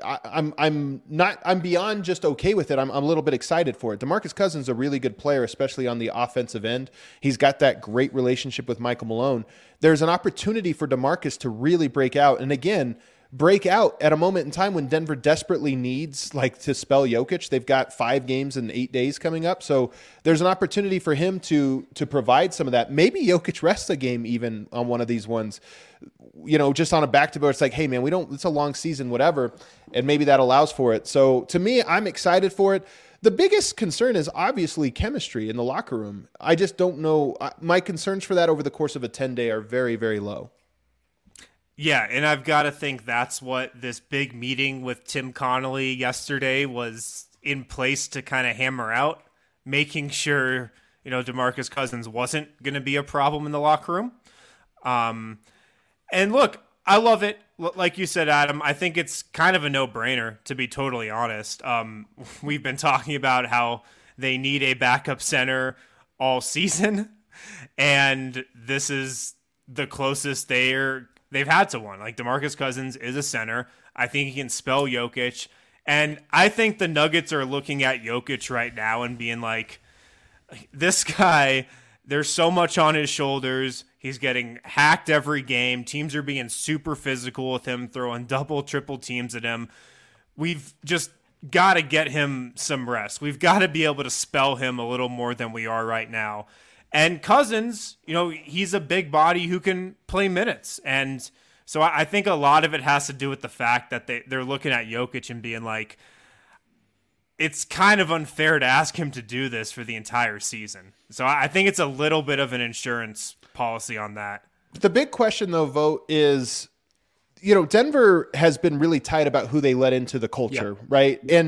I'm beyond just okay with it. I'm a little bit excited for it. DeMarcus Cousins is a really good player, especially on the offensive end. He's got that great relationship with Michael Malone. There's an opportunity for DeMarcus to really break out. And again, break out at a moment in time when Denver desperately needs to spell Jokic. They've got 5 games in 8 days coming up. So there's an opportunity for him to provide some of that. Maybe Jokic rests a game even on one of these ones, just on a back-to-back. It's like, hey man, it's a long season, whatever. And maybe that allows for it. So to me, I'm excited for it. The biggest concern is obviously chemistry in the locker room. I just don't know. My concerns for that over the course of a 10-day are very, very low. Yeah, and I've got to think that's what this big meeting with Tim Connolly yesterday was in place to kind of hammer out, making sure, DeMarcus Cousins wasn't going to be a problem in the locker room. And look, I love it. Like you said, Adam, I think it's kind of a no-brainer, to be totally honest. We've been talking about how they need a backup center all season, and this is the closest they've had to one. Like, DeMarcus Cousins is a center. I think he can spell Jokic. And I think the Nuggets are looking at Jokic right now and being like, this guy, there's so much on his shoulders. He's getting hacked every game. Teams are being super physical with him, throwing double, triple teams at him. We've just got to get him some rest. We've got to be able to spell him a little more than we are right now. And Cousins, he's a big body who can play minutes. And so I think a lot of it has to do with the fact that they're looking at Jokic and being like, it's kind of unfair to ask him to do this for the entire season. So I think it's a little bit of an insurance policy on that. The big question, though, Vogt, is, Denver has been really tight about who they let into the culture, right? And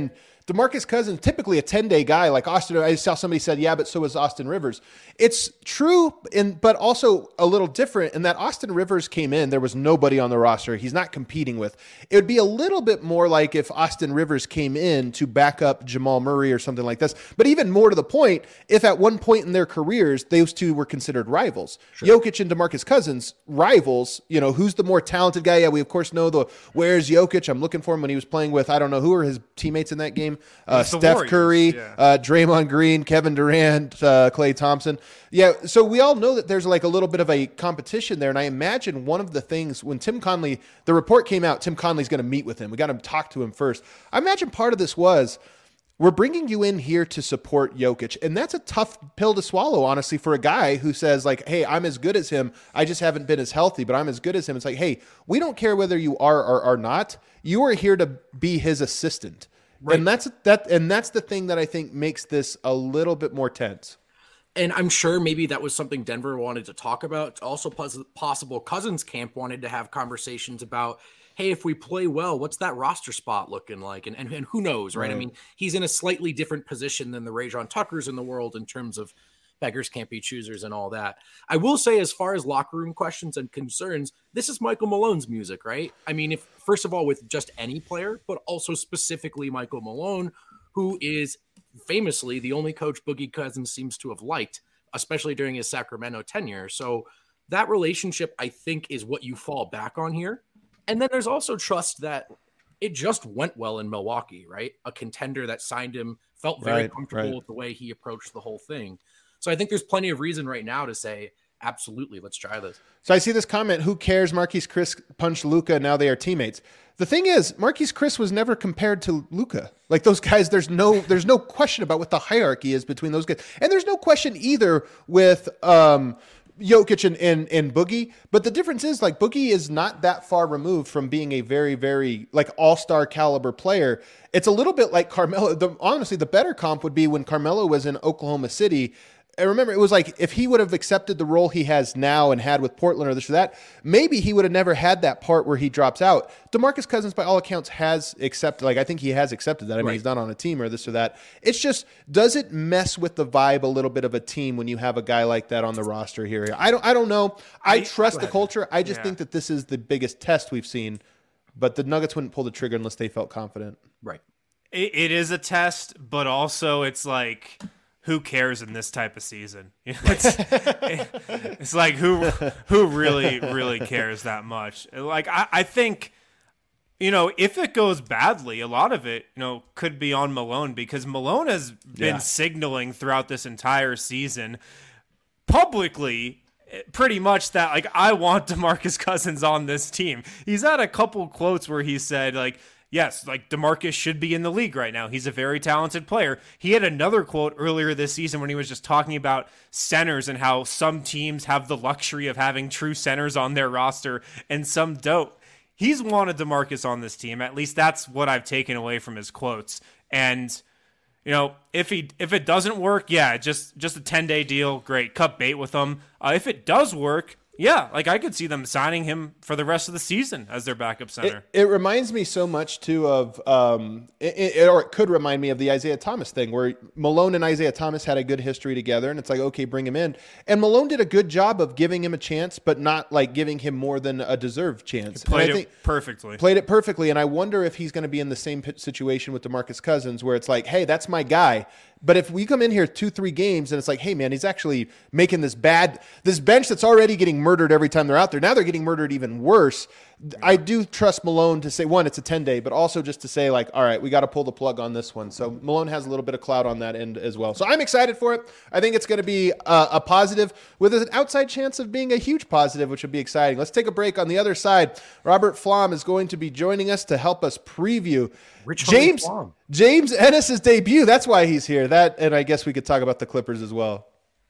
DeMarcus Cousins, typically a 10-day guy like Austin. I saw somebody said, yeah, but so is Austin Rivers. It's true, but also a little different in that Austin Rivers came in. There was nobody on the roster he's not competing with. It would be a little bit more like if Austin Rivers came in to back up Jamal Murray or something like this. But even more to the point, if at one point in their careers, those two were considered rivals. Sure. Jokic and DeMarcus Cousins, rivals, who's the more talented guy? Yeah, we of course know where's Jokic. I'm looking for him when he was playing with, I don't know, who were his teammates in that game? Steph Curry, Draymond Green, Kevin Durant, Klay Thompson. Yeah, so we all know that there's like a little bit of a competition there. And I imagine one of the things when Tim Conley, the report came out, Tim Conley's going to meet with him. We got him to talk to him first. I imagine part of this was, we're bringing you in here to support Jokic. And that's a tough pill to swallow, honestly, for a guy who says like, hey, I'm as good as him. I just haven't been as healthy, but I'm as good as him. It's like, hey, we don't care whether you are or are not. You are here to be his assistant. Right. And that's the thing that I think makes this a little bit more tense. And I'm sure maybe that was something Denver wanted to talk about. It's also possible Cousins camp wanted to have conversations about, hey, if we play well, what's that roster spot looking like? And who knows, right? I mean, he's in a slightly different position than the Rajon Tuckers in the world in terms of beggars can't be choosers and all that. I will say, as far as locker room questions and concerns, this is Michael Malone's music, right? I mean, if first of all, with just any player, but also specifically Michael Malone, who is famously the only coach Boogie Cousins seems to have liked, especially during his Sacramento tenure. So that relationship, I think, is what you fall back on here. And then there's also trust that it just went well in Milwaukee, right? A contender that signed him felt very comfortable with the way he approached the whole thing. So I think there's plenty of reason right now to say, absolutely, let's try this. So I see this comment, who cares? Marquise Chris punched Luka, now they are teammates. The thing is, Marquise Chris was never compared to Luka. Like those guys, there's no question about what the hierarchy is between those guys. And there's no question either with Jokic and Boogie. But the difference is, like, Boogie is not that far removed from being a very, very like all-star caliber player. It's a little bit like Carmelo. Honestly, the better comp would be when Carmelo was in Oklahoma City. I remember it was like, if he would have accepted the role he has now and had with Portland or this or that, maybe he would have never had that part where he drops out. DeMarcus Cousins, by all accounts, has accepted, like, I think he has accepted that. I mean, he's not on a team or this or that. It's just, does it mess with the vibe a little bit of a team when you have a guy like that on the roster here? I don't know. I trust the culture. I just think that this is the biggest test we've seen, but the Nuggets wouldn't pull the trigger unless they felt confident. Right. It is a test, but also it's like, who cares in this type of season? It's like who really cares that much? Like I think, if it goes badly, a lot of it, could be on Malone, because Malone has been signaling throughout this entire season publicly pretty much that, like, I want DeMarcus Cousins on this team. He's had a couple quotes where he said, like, yes, like, DeMarcus should be in the league right now. He's a very talented player. He had another quote earlier this season when he was just talking about centers and how some teams have the luxury of having true centers on their roster and some don't. He's wanted DeMarcus on this team. At least that's what I've taken away from his quotes. And, if it doesn't work, just a 10-day deal, great. Cut bait with him. If it does work, like, I could see them signing him for the rest of the season as their backup center. It reminds me so much, too, of or it could remind me of the Isaiah Thomas thing, where Malone and Isaiah Thomas had a good history together, and it's like, okay, bring him in. And Malone did a good job of giving him a chance, but not, like, giving him more than a deserved chance. Played it perfectly. Played it perfectly, and I wonder if he's going to be in the same situation with DeMarcus Cousins, where it's like, hey, that's my guy. But if we come in here 2-3 games and it's like, hey, man, he's actually making this bench that's already getting murdered every time they're out there. Now they're getting murdered even worse. I do trust Malone to say, one, it's a 10-day, but also just to say, like, all right, we got to pull the plug on this one. So Malone has a little bit of clout on that end as well. So I'm excited for it. I think it's going to be a positive with an outside chance of being a huge positive, which would be exciting. Let's take a break. On the other side, Robert Flom is going to be joining us to help us preview James Ennis's debut. That's why he's here. That, and I guess we could talk about the Clippers as well.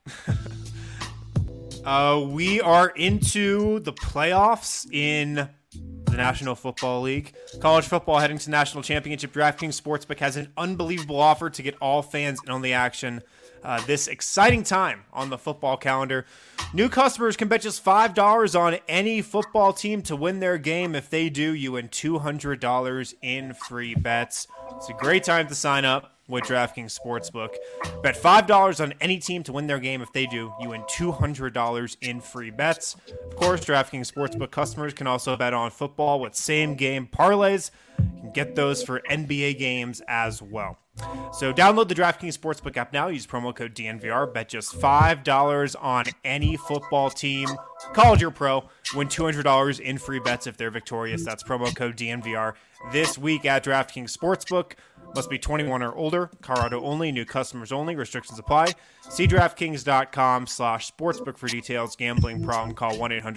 We are into the playoffs in the National Football League. College football heading to national championship. DraftKings Sportsbook has an unbelievable offer to get all fans in on the action. this exciting time on the football calendar. New customers can bet just $5 on any football team to win their game. If they do, you win $200 in free bets. It's a great time to sign up with DraftKings Sportsbook. Bet $5 on any team to win their game. If they do, you win $200 in free bets. Of course, DraftKings Sportsbook customers can also bet on football with same-game parlays. You can get those for NBA games as well. So download the DraftKings Sportsbook app now. Use promo code DNVR. Bet just $5 on any football team, college or pro. Win $200 in free bets if they're victorious. That's promo code DNVR this week at DraftKings Sportsbook. Must be 21 or older. Colorado only. New customers only. Restrictions apply. See DraftKings.com/sportsbook for details. Gambling problem? Call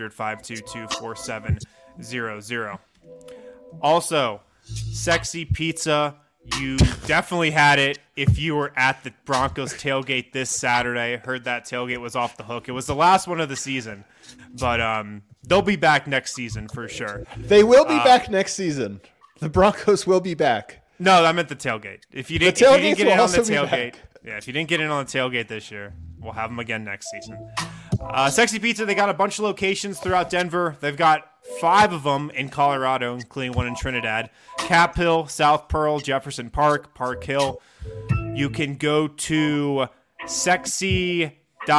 1-800-522-4700. Also, Sexy Pizza. You definitely had it if you were at the Broncos tailgate this Saturday. I heard that tailgate was off the hook. It was the last one of the season, but they'll be back next season for sure. They will be back next season. The Broncos will be back. No, I meant the tailgate. If you didn't get in on the tailgate, if you didn't get in on the tailgate this year, we'll have them again next season. Sexy Pizza, they got a bunch of locations throughout Denver. They've got 5 of them in Colorado, including one in Trinidad. Cap Hill, South Pearl, Jefferson Park, Park Hill. You can go to sexy.pizza,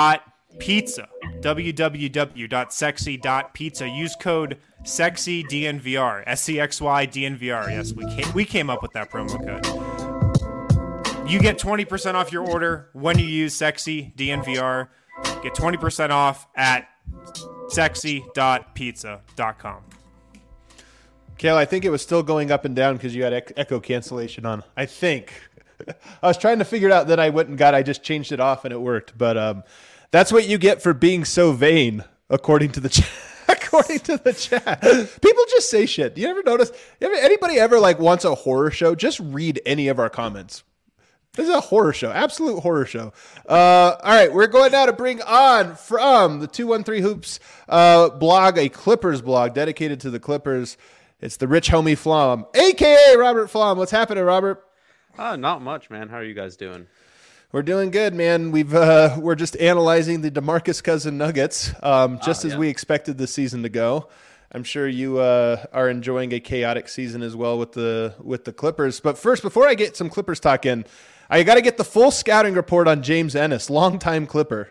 www.sexy.pizza. Use code SEXYDNVR, SCXY-DNVR. Yes, we came up with that promo code. You get 20% off your order when you use SEXYDNVR. Get 20% off at sexy.pizza.com. Kale, I think it was still going up and down because you had echo cancellation on. I think. I was trying to figure it out, then I went and I just changed it off and it worked. But that's what you get for being so vain, according to the chat. According to the chat. People just say shit. You ever notice? Anybody ever wants a horror show? Just read any of our comments. This is a horror show, absolute horror show. All right, we're going now to bring on from the 213 Hoops blog, a Clippers blog dedicated to the Clippers. It's the Rich Homie Flom, a.k.a. Robert Flom. What's happening, Robert? Not much, man. How are you guys doing? We're doing good, man. We're just analyzing the DeMarcus Cousins Nuggets, as we expected the season to go. I'm sure you are enjoying a chaotic season as well with the Clippers. But first, before I get some Clippers talk in, I got to get the full scouting report on James Ennis, longtime Clipper.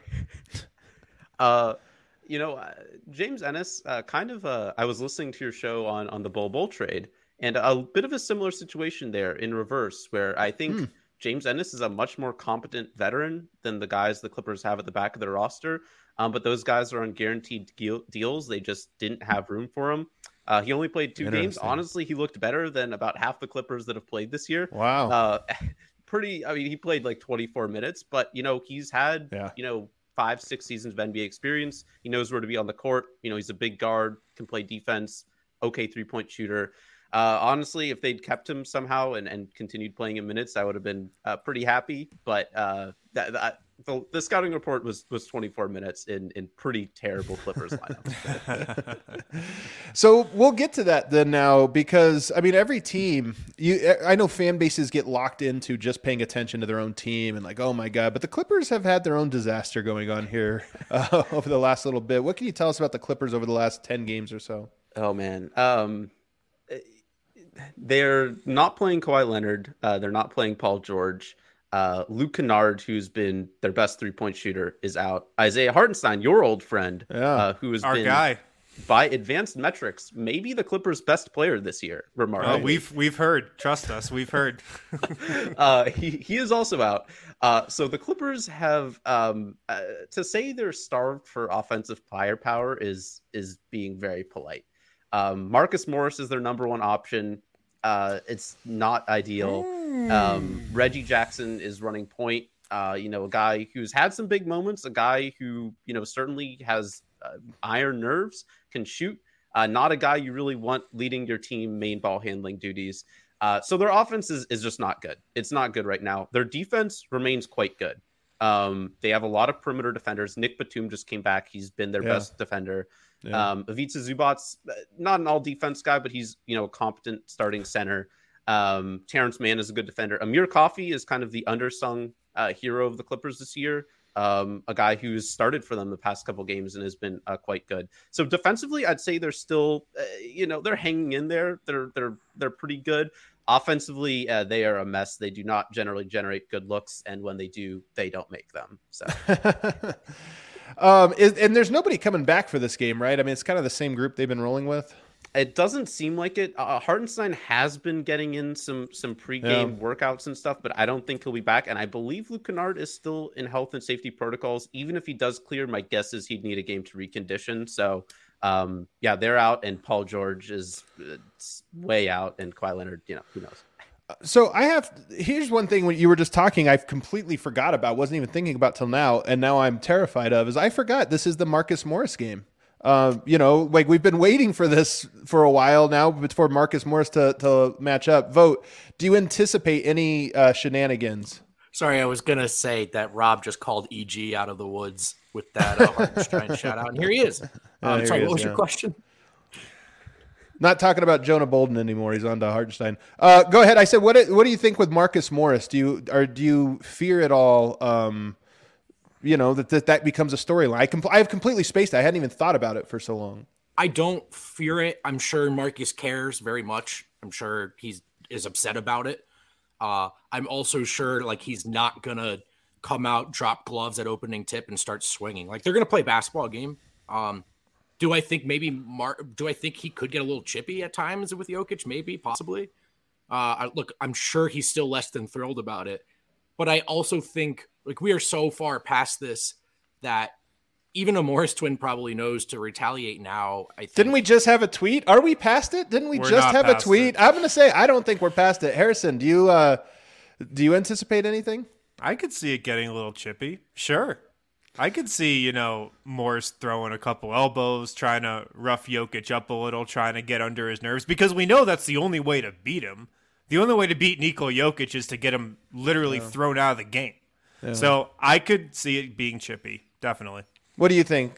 James Ennis, I was listening to your show on the Bol trade, and a bit of a similar situation there in reverse, where I think James Ennis is a much more competent veteran than the guys the Clippers have at the back of their roster. But those guys are on guaranteed deals. They just didn't have room for him. He only played 2 games. Honestly, he looked better than about half the Clippers that have played this year. Wow. He played 24 minutes, but he's had 5-6 seasons of NBA experience. He knows where to be on the court. He's a big guard, can play defense, okay 3-point shooter. Honestly, if they'd kept him somehow and continued playing in minutes, I would have been pretty happy. But the scouting report was 24 minutes in pretty terrible Clippers lineup. So we'll get to that then now, because every team, I know fan bases get locked into just paying attention to their own team and oh my God, but the Clippers have had their own disaster going on here over the last little bit. What can you tell us about the Clippers over the last 10 games or so? Oh man. They're not playing Kawhi Leonard. They're not playing Paul George. Luke Kennard, who's been their best 3-point shooter, is out. Isaiah Hartenstein, your old friend, who has our been, guy, by advanced metrics, maybe the Clippers' best player this year. Remarkably. Oh, we've heard. Trust us, we've heard. He is also out. So the Clippers have to say they're starved for offensive firepower is being very polite. Marcus Morris is their number one option. It's not ideal. Reggie Jackson is running point. A guy who's had some big moments, a guy who, certainly has iron nerves, can shoot. Not a guy you really want leading your team main ball handling duties. So their offense is just not good. It's not good right now. Their defense remains quite good. They have a lot of perimeter defenders. Nick Batum just came back. He's been their best defender. Yeah. Ivica Zubac's not an all defense guy, but he's, a competent starting center. Terrence Mann is a good defender. Amir Coffey is kind of the undersung hero of the Clippers this year. A guy who's started for them the past couple games and has been quite good. So defensively, I'd say they're still, they're hanging in there. They're pretty good. Offensively, they are a mess. They do not generally generate good looks, and when they do, they don't make them. So, and there's nobody coming back for this game, right? I mean, it's kind of the same group they've been rolling with. It doesn't seem like it. Hartenstein has been getting in some pregame workouts and stuff, but I don't think he'll be back. And I believe Luke Kennard is still in health and safety protocols. Even if he does clear, my guess is he'd need a game to recondition. So, they're out, and Paul George is way out, and Kawhi Leonard, who knows. So here's one thing when you were just talking, I've completely forgot about, wasn't even thinking about till now, and now I'm terrified of, is I forgot this is the Marcus Morris game. We've been waiting for this for a while now for Marcus Morris to match up. Vogt, do you anticipate any shenanigans? Sorry, I was going to say that Rob just called EG out of the woods with that Hartenstein shout out. And here he is. What was your question? Not talking about Jonah Bolden anymore. He's on to Hartenstein. Go ahead. I said, what do you think with Marcus Morris? Do you fear at all that becomes a storyline? I have completely spaced it. I hadn't even thought about it for so long. I don't fear it. I'm sure Marcus cares very much. I'm sure he is upset about it. I'm also sure he's not going to come out, drop gloves at opening tip and start swinging. They're going to play a basketball game. Do I think do I think he could get a little chippy at times with Jokic? Maybe, possibly. I'm sure he's still less than thrilled about it. But I also think we are so far past this that even a Morris twin probably knows to retaliate now. I think. Didn't we just have a tweet? Are we past it? Didn't we just have a tweet? I'm going to say I don't think we're past it. Harrison, do you anticipate anything? I could see it getting a little chippy. Sure. I could see, Morris throwing a couple elbows, trying to rough Jokic up a little, trying to get under his nerves, because we know that's the only way to beat him. The only way to beat Nikola Jokic is to get him literally thrown out of the game. Yeah. So I could see it being chippy, definitely. What do you think?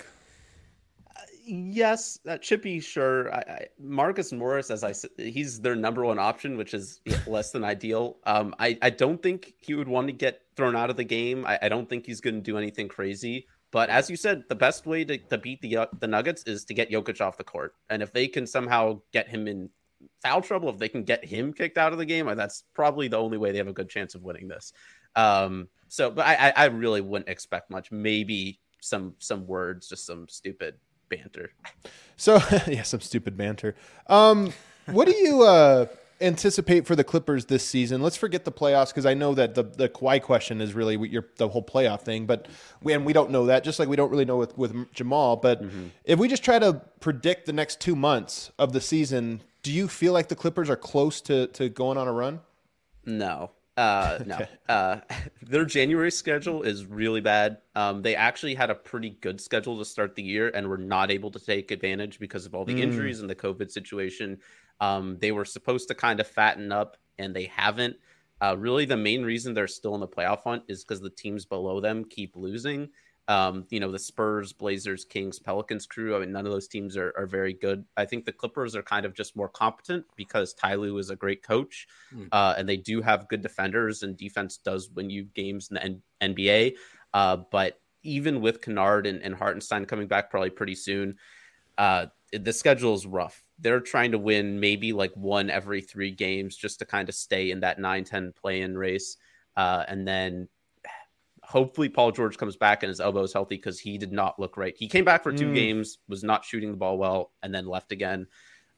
Yes, chippy, sure. Marcus Morris, as I said, he's their number one option, which is less than ideal. I don't think he would want to get thrown out of the game. I don't think he's going to do anything crazy. But as you said, the best way to beat the Nuggets is to get Jokic off the court. And if they can somehow get him in foul trouble, if they can get him kicked out of the game, that's probably the only way they have a good chance of winning this. But I really wouldn't expect much. Maybe some words, just some stupid banter. So some stupid banter. What do you anticipate for the Clippers this season? Let's forget the playoffs, because I know that the Kawhi question is really the whole playoff thing, but we don't know that, just like we don't really know with Jamal. But if we just try to predict the next 2 months of the season, do you feel like the Clippers are close to going on a run? No. No. Their January schedule is really bad. They actually had a pretty good schedule to start the year and were not able to take advantage because of all the injuries and the COVID situation. They were supposed to kind of fatten up, and they haven't. Really, the main reason they're still in the playoff hunt is because the teams below them keep losing. The Spurs, Blazers, Kings, Pelicans crew. I mean, none of those teams are very good. I think the Clippers are kind of just more competent because Ty Lue is a great coach, and they do have good defenders, and defense does win you games in the NBA. But even with Kennard and Hartenstein coming back probably pretty soon, the schedule is rough. They're trying to win maybe one every 3 games just to kind of stay in that 9-10 play-in race. And then hopefully Paul George comes back and his elbow is healthy, because he did not look right. He came back for 2 games, was not shooting the ball well, and then left again.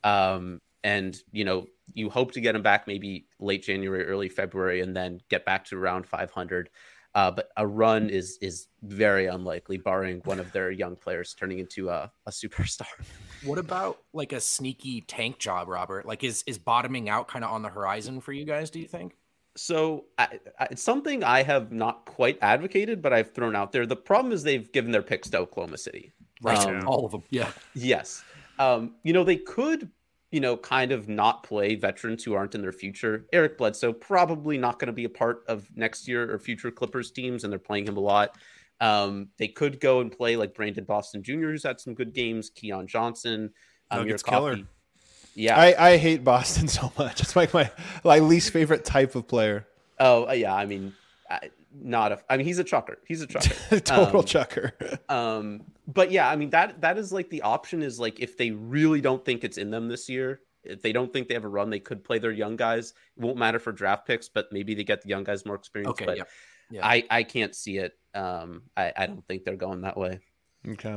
You hope to get him back maybe late January, early February, and then get back to around 500. But a run is very unlikely, barring one of their young players turning into a superstar. What about a sneaky tank job, Robert? Is bottoming out kind of on the horizon for you guys, do you think? So it's something I have not quite advocated, but I've thrown out there. The problem is they've given their picks to Oklahoma City. Right. All of them. Yeah. Yes. They could, kind of not play veterans who aren't in their future. Eric Bledsoe probably not going to be a part of next year or future Clippers teams, and they're playing him a lot. They could go and play Brandon Boston Jr., who's had some good games. Keon Johnson. Nuggets killer. Yeah, I hate Boston so much. It's my least favorite type of player. Oh, yeah. I mean, I mean, he's a chucker. He's a chucker. Total chucker. But yeah, I mean, that is like the option is like if they really don't think it's in them this year, if they don't think they have a run, they could play their young guys. It won't matter for draft picks, but maybe they get the young guys more experience. Okay, but yeah. I can't see it. I don't think they're going that way. Okay.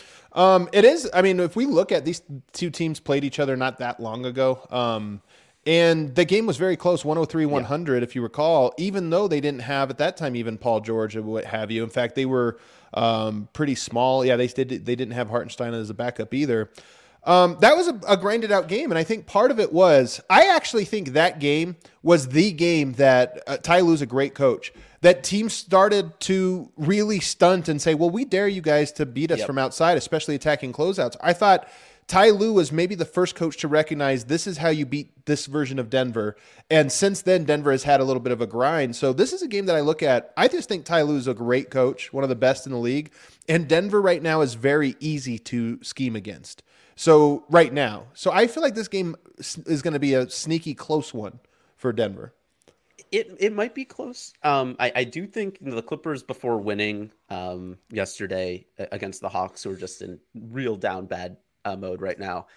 It is. I mean, if we look at these two teams played each other not that long ago, and the game was very close, 103-100, if you recall, even though they didn't have at that time even Paul George or what have you. In fact, they were pretty small. Yeah, they didn't have Hartenstein as a backup either. That was a grinded out game. And I think part of it was, I actually think that game was the game that Ty Lue's a great coach. That teams started to really stunt and say, well, we dare you guys to beat us from outside, especially attacking closeouts. I thought Ty Lue was maybe the first coach to recognize this is how you beat this version of Denver. And since then, Denver has had a little bit of a grind. So this is a game that I look at. I just think Ty Lue is a great coach, one of the best in the league. And Denver right now is very easy to scheme against. So right now. So I feel like this game is going to be a sneaky close one for Denver. It might be close. I do think the Clippers, before winning yesterday against the Hawks, who are just in real down bad mode right now,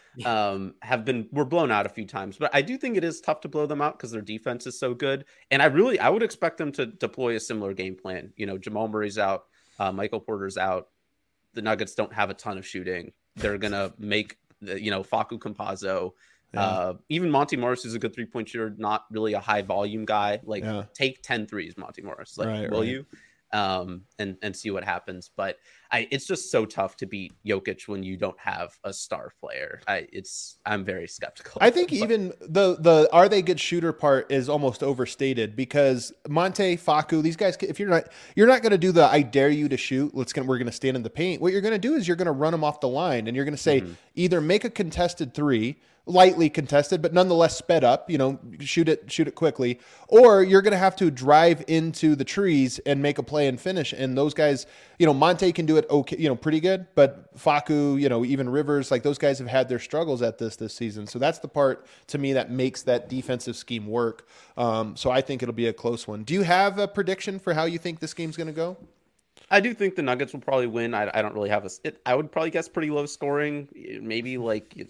were blown out a few times. But I do think it is tough to blow them out because their defense is so good. And I would expect them to deploy a similar game plan. You know, Jamal Murray's out, Michael Porter's out. The Nuggets don't have a ton of shooting. They're gonna make Facu Campazzo. Yeah. Even Monty Morris is a good 3-point shooter, not really a high volume guy. Take 10 threes, Monty Morris. Will you? And see what happens. But it's just so tough to beat Jokic when you don't have a star player. I'm very skeptical. I think even the are they good shooter part is almost overstated because Monte, Facu, these guys, if you're not going to do the I dare you to shoot, we're going to stand in the paint. What you're going to do is you're going to run them off the line and you're going to say either make a contested three, lightly contested, but nonetheless sped up, shoot it quickly, or you're going to have to drive into the trees and make a play and finish. And those guys, Monte can do it okay, pretty good, but Facu, even Rivers, like those guys have had their struggles at this season. So that's the part to me that makes that defensive scheme work. So I think it'll be a close one. Do you have a prediction for how you think this game's going to go? I do think the Nuggets will probably win. I don't really have I would probably guess pretty low scoring, maybe like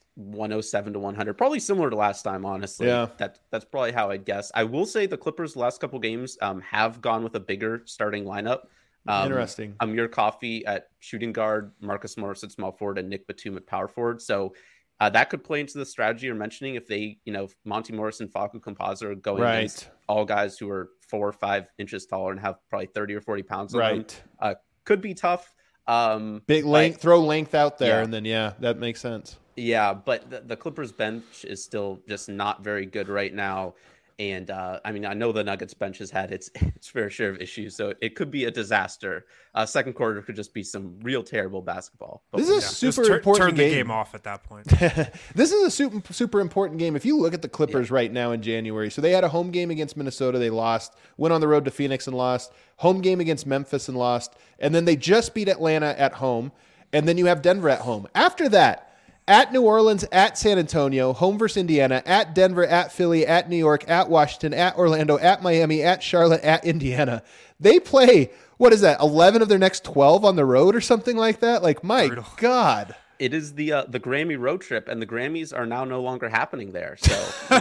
107-100, probably similar to last time, honestly. Yeah. That's probably how I'd guess. I will say the Clippers' last couple games have gone with a bigger starting lineup. Interesting. Amir Coffey at shooting guard, Marcus Morris at small forward, and Nick Batum at power forward. So that could play into the strategy you're mentioning if they, Monty Morris and Facu Campazzo are going against all guys who are 4 or 5 inches taller and have probably 30 or 40 pounds on them. Could be tough. Big length, throw length out there, and then that makes sense. Yeah, but the Clippers bench is still just not very good right now. And I know the Nuggets bench has had its fair share of issues, so it could be a disaster. Second quarter could just be some real terrible basketball. This is a super important game. Turn the game off at that point. This is a super important game. If you look at the Clippers right now in January, so they had a home game against Minnesota, they lost, went on the road to Phoenix and lost, home game against Memphis and lost, and then they just beat Atlanta at home, and then you have Denver at home. After that, at New Orleans, at San Antonio, home versus Indiana, at Denver, at Philly, at New York, at Washington, at Orlando, at Miami, at Charlotte, at Indiana. They play, 11 of their next 12 on the road or something like that? Like, my God. It is the Grammy road trip, and the Grammys are now no longer happening there. So,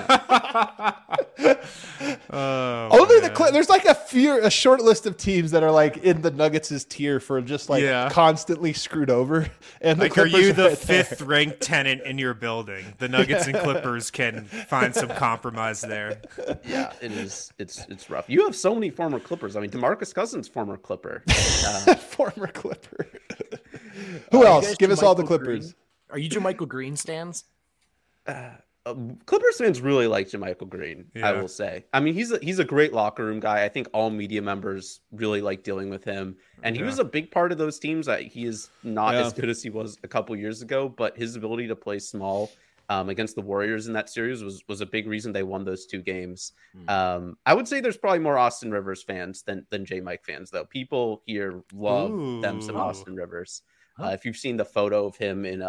there's like a short list of teams that are like in the Nuggets' tier for just constantly screwed over. And like, are you the 5th ranked tenant in your building? The Nuggets and Clippers can find some compromise there. Yeah, it is. It's rough. You have so many former Clippers. I mean, DeMarcus Cousins, former Clipper. Former Clipper. Who else? Give us all the Clippers. Green? Are you JaMychal Green stans? Clippers fans really like JaMychal Green, I will say. I mean, he's a great locker room guy. I think all media members really like dealing with him. And he was a big part of those teams. He is not as good as he was a couple years ago, but his ability to play small against the Warriors in that series was a big reason they won those 2 games. I would say there's probably more Austin Rivers fans than J-Mike fans, though. People here love them some Austin Rivers. If you've seen the photo of him in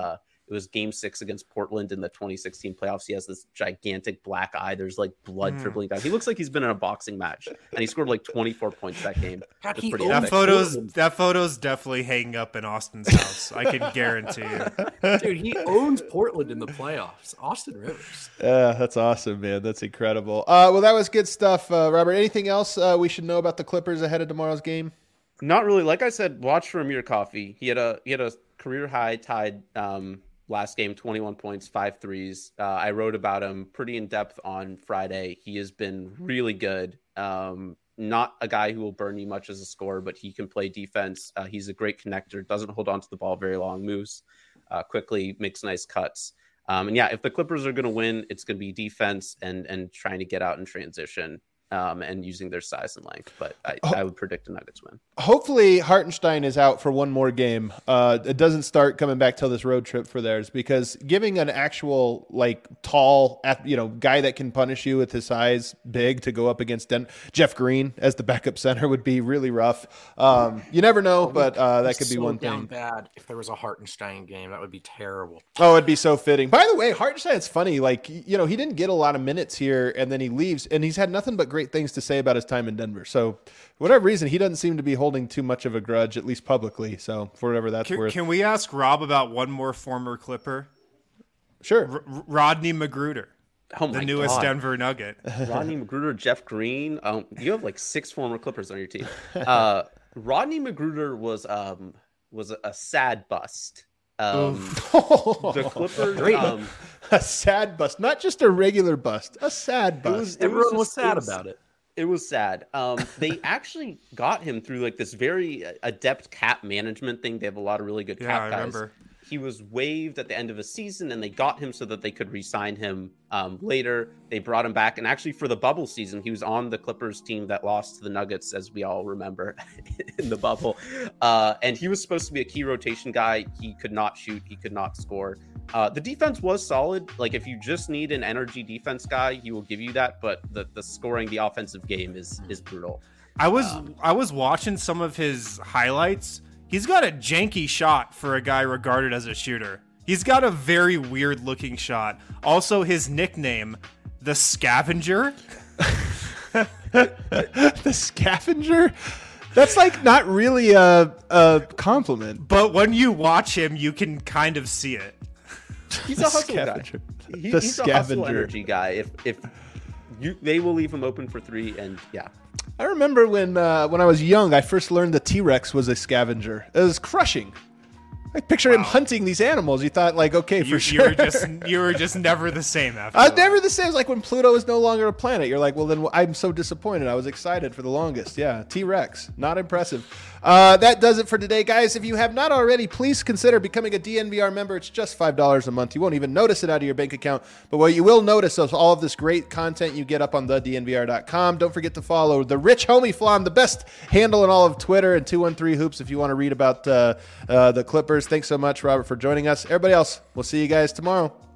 It was Game 6 against Portland in the 2016 playoffs. He has this gigantic black eye. There's like blood dribbling down. He looks like he's been in a boxing match, and he scored like 24 points that game. God, It was pretty That epic. photo's definitely hanging up in Austin's house. I can guarantee you. Dude, he owns Portland in the playoffs. Austin Rivers. That's awesome, man. That's incredible. Well, that was good stuff, Robert. Anything else we should know about the Clippers ahead of tomorrow's game? Not really. Like I said, watch for Amir Coffey. He had a career high tied last game, 21 points, 5 threes. I wrote about him pretty in depth on Friday. He has been really good. Not a guy who will burn you much as a scorer, but he can play defense. He's a great connector, doesn't hold on to the ball very long, moves quickly, makes nice cuts. And yeah, if the Clippers are going to win, it's going to be defense and trying to get out in transition. And using their size and length, but I would predict the Nuggets win. Hopefully Hartenstein is out for one more game. It doesn't start coming back till this road trip for theirs, because giving an actual like tall, guy that can punish you with his size, big, to go up against Jeff Green as the backup center would be really rough. You never know, but that could be one thing. Bad if there was a Hartenstein game, that would be terrible. Oh, it'd be so fitting. By the way, Hartenstein's funny. Like, he didn't get a lot of minutes here, and then he leaves, and he's had nothing but great things to say about his time in Denver. So, for whatever reason, he doesn't seem to be holding too much of a grudge, at least publicly. So, for whatever that's worth. Can we ask Rob about one more former Clipper? Sure. Rodney Magruder, Oh my the newest God. Denver Nugget. Rodney Magruder, Jeff Green. You have like 6 former Clippers on your team. Rodney Magruder was a sad bust. The Clippers. A sad bust, not just a regular bust, a sad bust. Everyone was sad about it. It was sad. They actually got him through like this very adept cap management thing. They have a lot of really good cap I guys. remember. He was waived at the end of a season, and they got him so that they could re-sign him later. They brought him back, and actually for the bubble season, he was on the Clippers team that lost to the Nuggets, as we all remember, in the bubble. And he was supposed to be a key rotation guy. He could not shoot. He could not score. The defense was solid. Like, if you just need an energy defense guy, he will give you that. But the scoring, the offensive game is brutal. I was watching some of his highlights. He's got a janky shot for a guy regarded as a shooter. He's got a very weird looking shot. Also, his nickname, the Scavenger. The Scavenger? That's like not really a compliment. But when you watch him, you can kind of see it. He's a hustle guy. He's a hustle energy guy. If they will leave him open for 3, and yeah. I remember when I was young, I first learned the T-Rex was a scavenger. It was crushing. I picture him hunting these animals. You thought, like, okay, for sure. You were just never the same after. I was never the same. It's like when Pluto is no longer a planet. You're like, well, then I'm so disappointed. I was excited for the longest. Yeah, T-Rex. Not impressive. That does it for today, guys. If you have not already, please consider becoming a DNVR member. It's just $5 a month. You won't even notice it out of your bank account. But what you will notice is all of this great content you get up on thednvr.com. Don't forget to follow the Rich Homie Flom, the best handle in all of Twitter, and 213 Hoops if you want to read about the Clippers. Thanks so much, Robert, for joining us. Everybody else, we'll see you guys tomorrow.